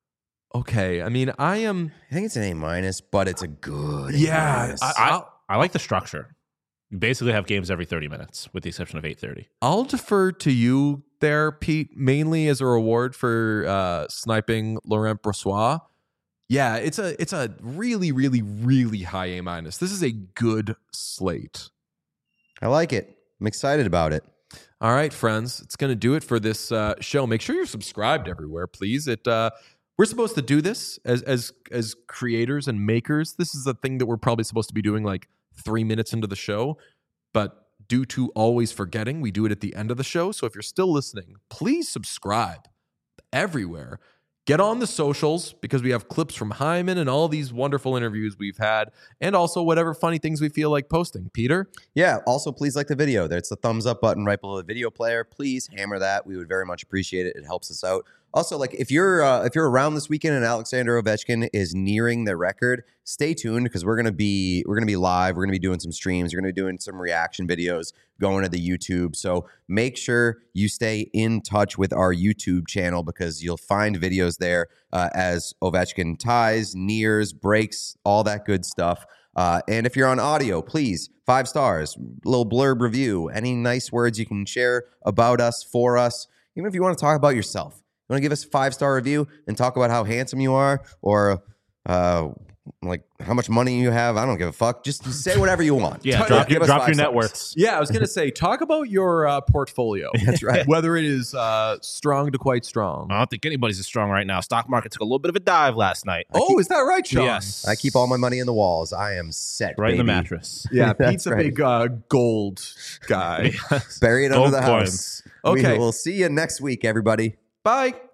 Okay. I mean, I am. I think it's an A minus, but it's a good. Yeah. A I, I, I'll, I like the structure. You basically have games every thirty minutes, with the exception of eight thirty. I'll defer to you there, Pete, mainly as a reward for uh, sniping Laurent Brossoit. Yeah, it's a it's a really, really, really high A minus. This is a good slate. I like it. I'm excited about it. All right, friends, it's going to do it for this uh, show. Make sure you're subscribed everywhere, please. It uh, we're supposed to do this as as as creators and makers. This is a thing that we're probably supposed to be doing like three minutes into the show, but due to always forgetting, we do it at the end of the show. So if you're still listening, please subscribe everywhere. Get on the socials because we have clips from Hyman and all these wonderful interviews we've had, and also whatever funny things we feel like posting. Peter? Yeah. Also, please like the video. There's the thumbs up button right below the video player. Please hammer that. We would very much appreciate it. It helps us out. Also, like if you're uh, if you're around this weekend and Alexander Ovechkin is nearing the record, stay tuned because we're gonna be we're gonna be live. We're gonna be doing some streams. We're gonna be doing some reaction videos going to the YouTube. So make sure you stay in touch with our YouTube channel because you'll find videos there uh, as Ovechkin ties, nears, breaks, all that good stuff. Uh, and if you're on audio, please, five stars, a little blurb review, any nice words you can share about us, for us, even if you want to talk about yourself. You want to give us a five-star review and talk about how handsome you are or uh, like how much money you have? I don't give a fuck. Just say whatever you want. Yeah, Talk- drop give your, us drop five your stars. net worths. Yeah, I was going to say, talk about your uh, portfolio. That's right. Whether it is uh, strong to quite strong. I don't think anybody's as strong right now. Stock market took a little bit of a dive last night. Oh, is that right, Sean? Yes. I keep all my money in the walls. I am set, Right in the baby. mattress. Yeah, That's Pete's a right. big uh, gold guy. Bury it Gold under the coins. house. Okay. We will see you next week, everybody. Bye.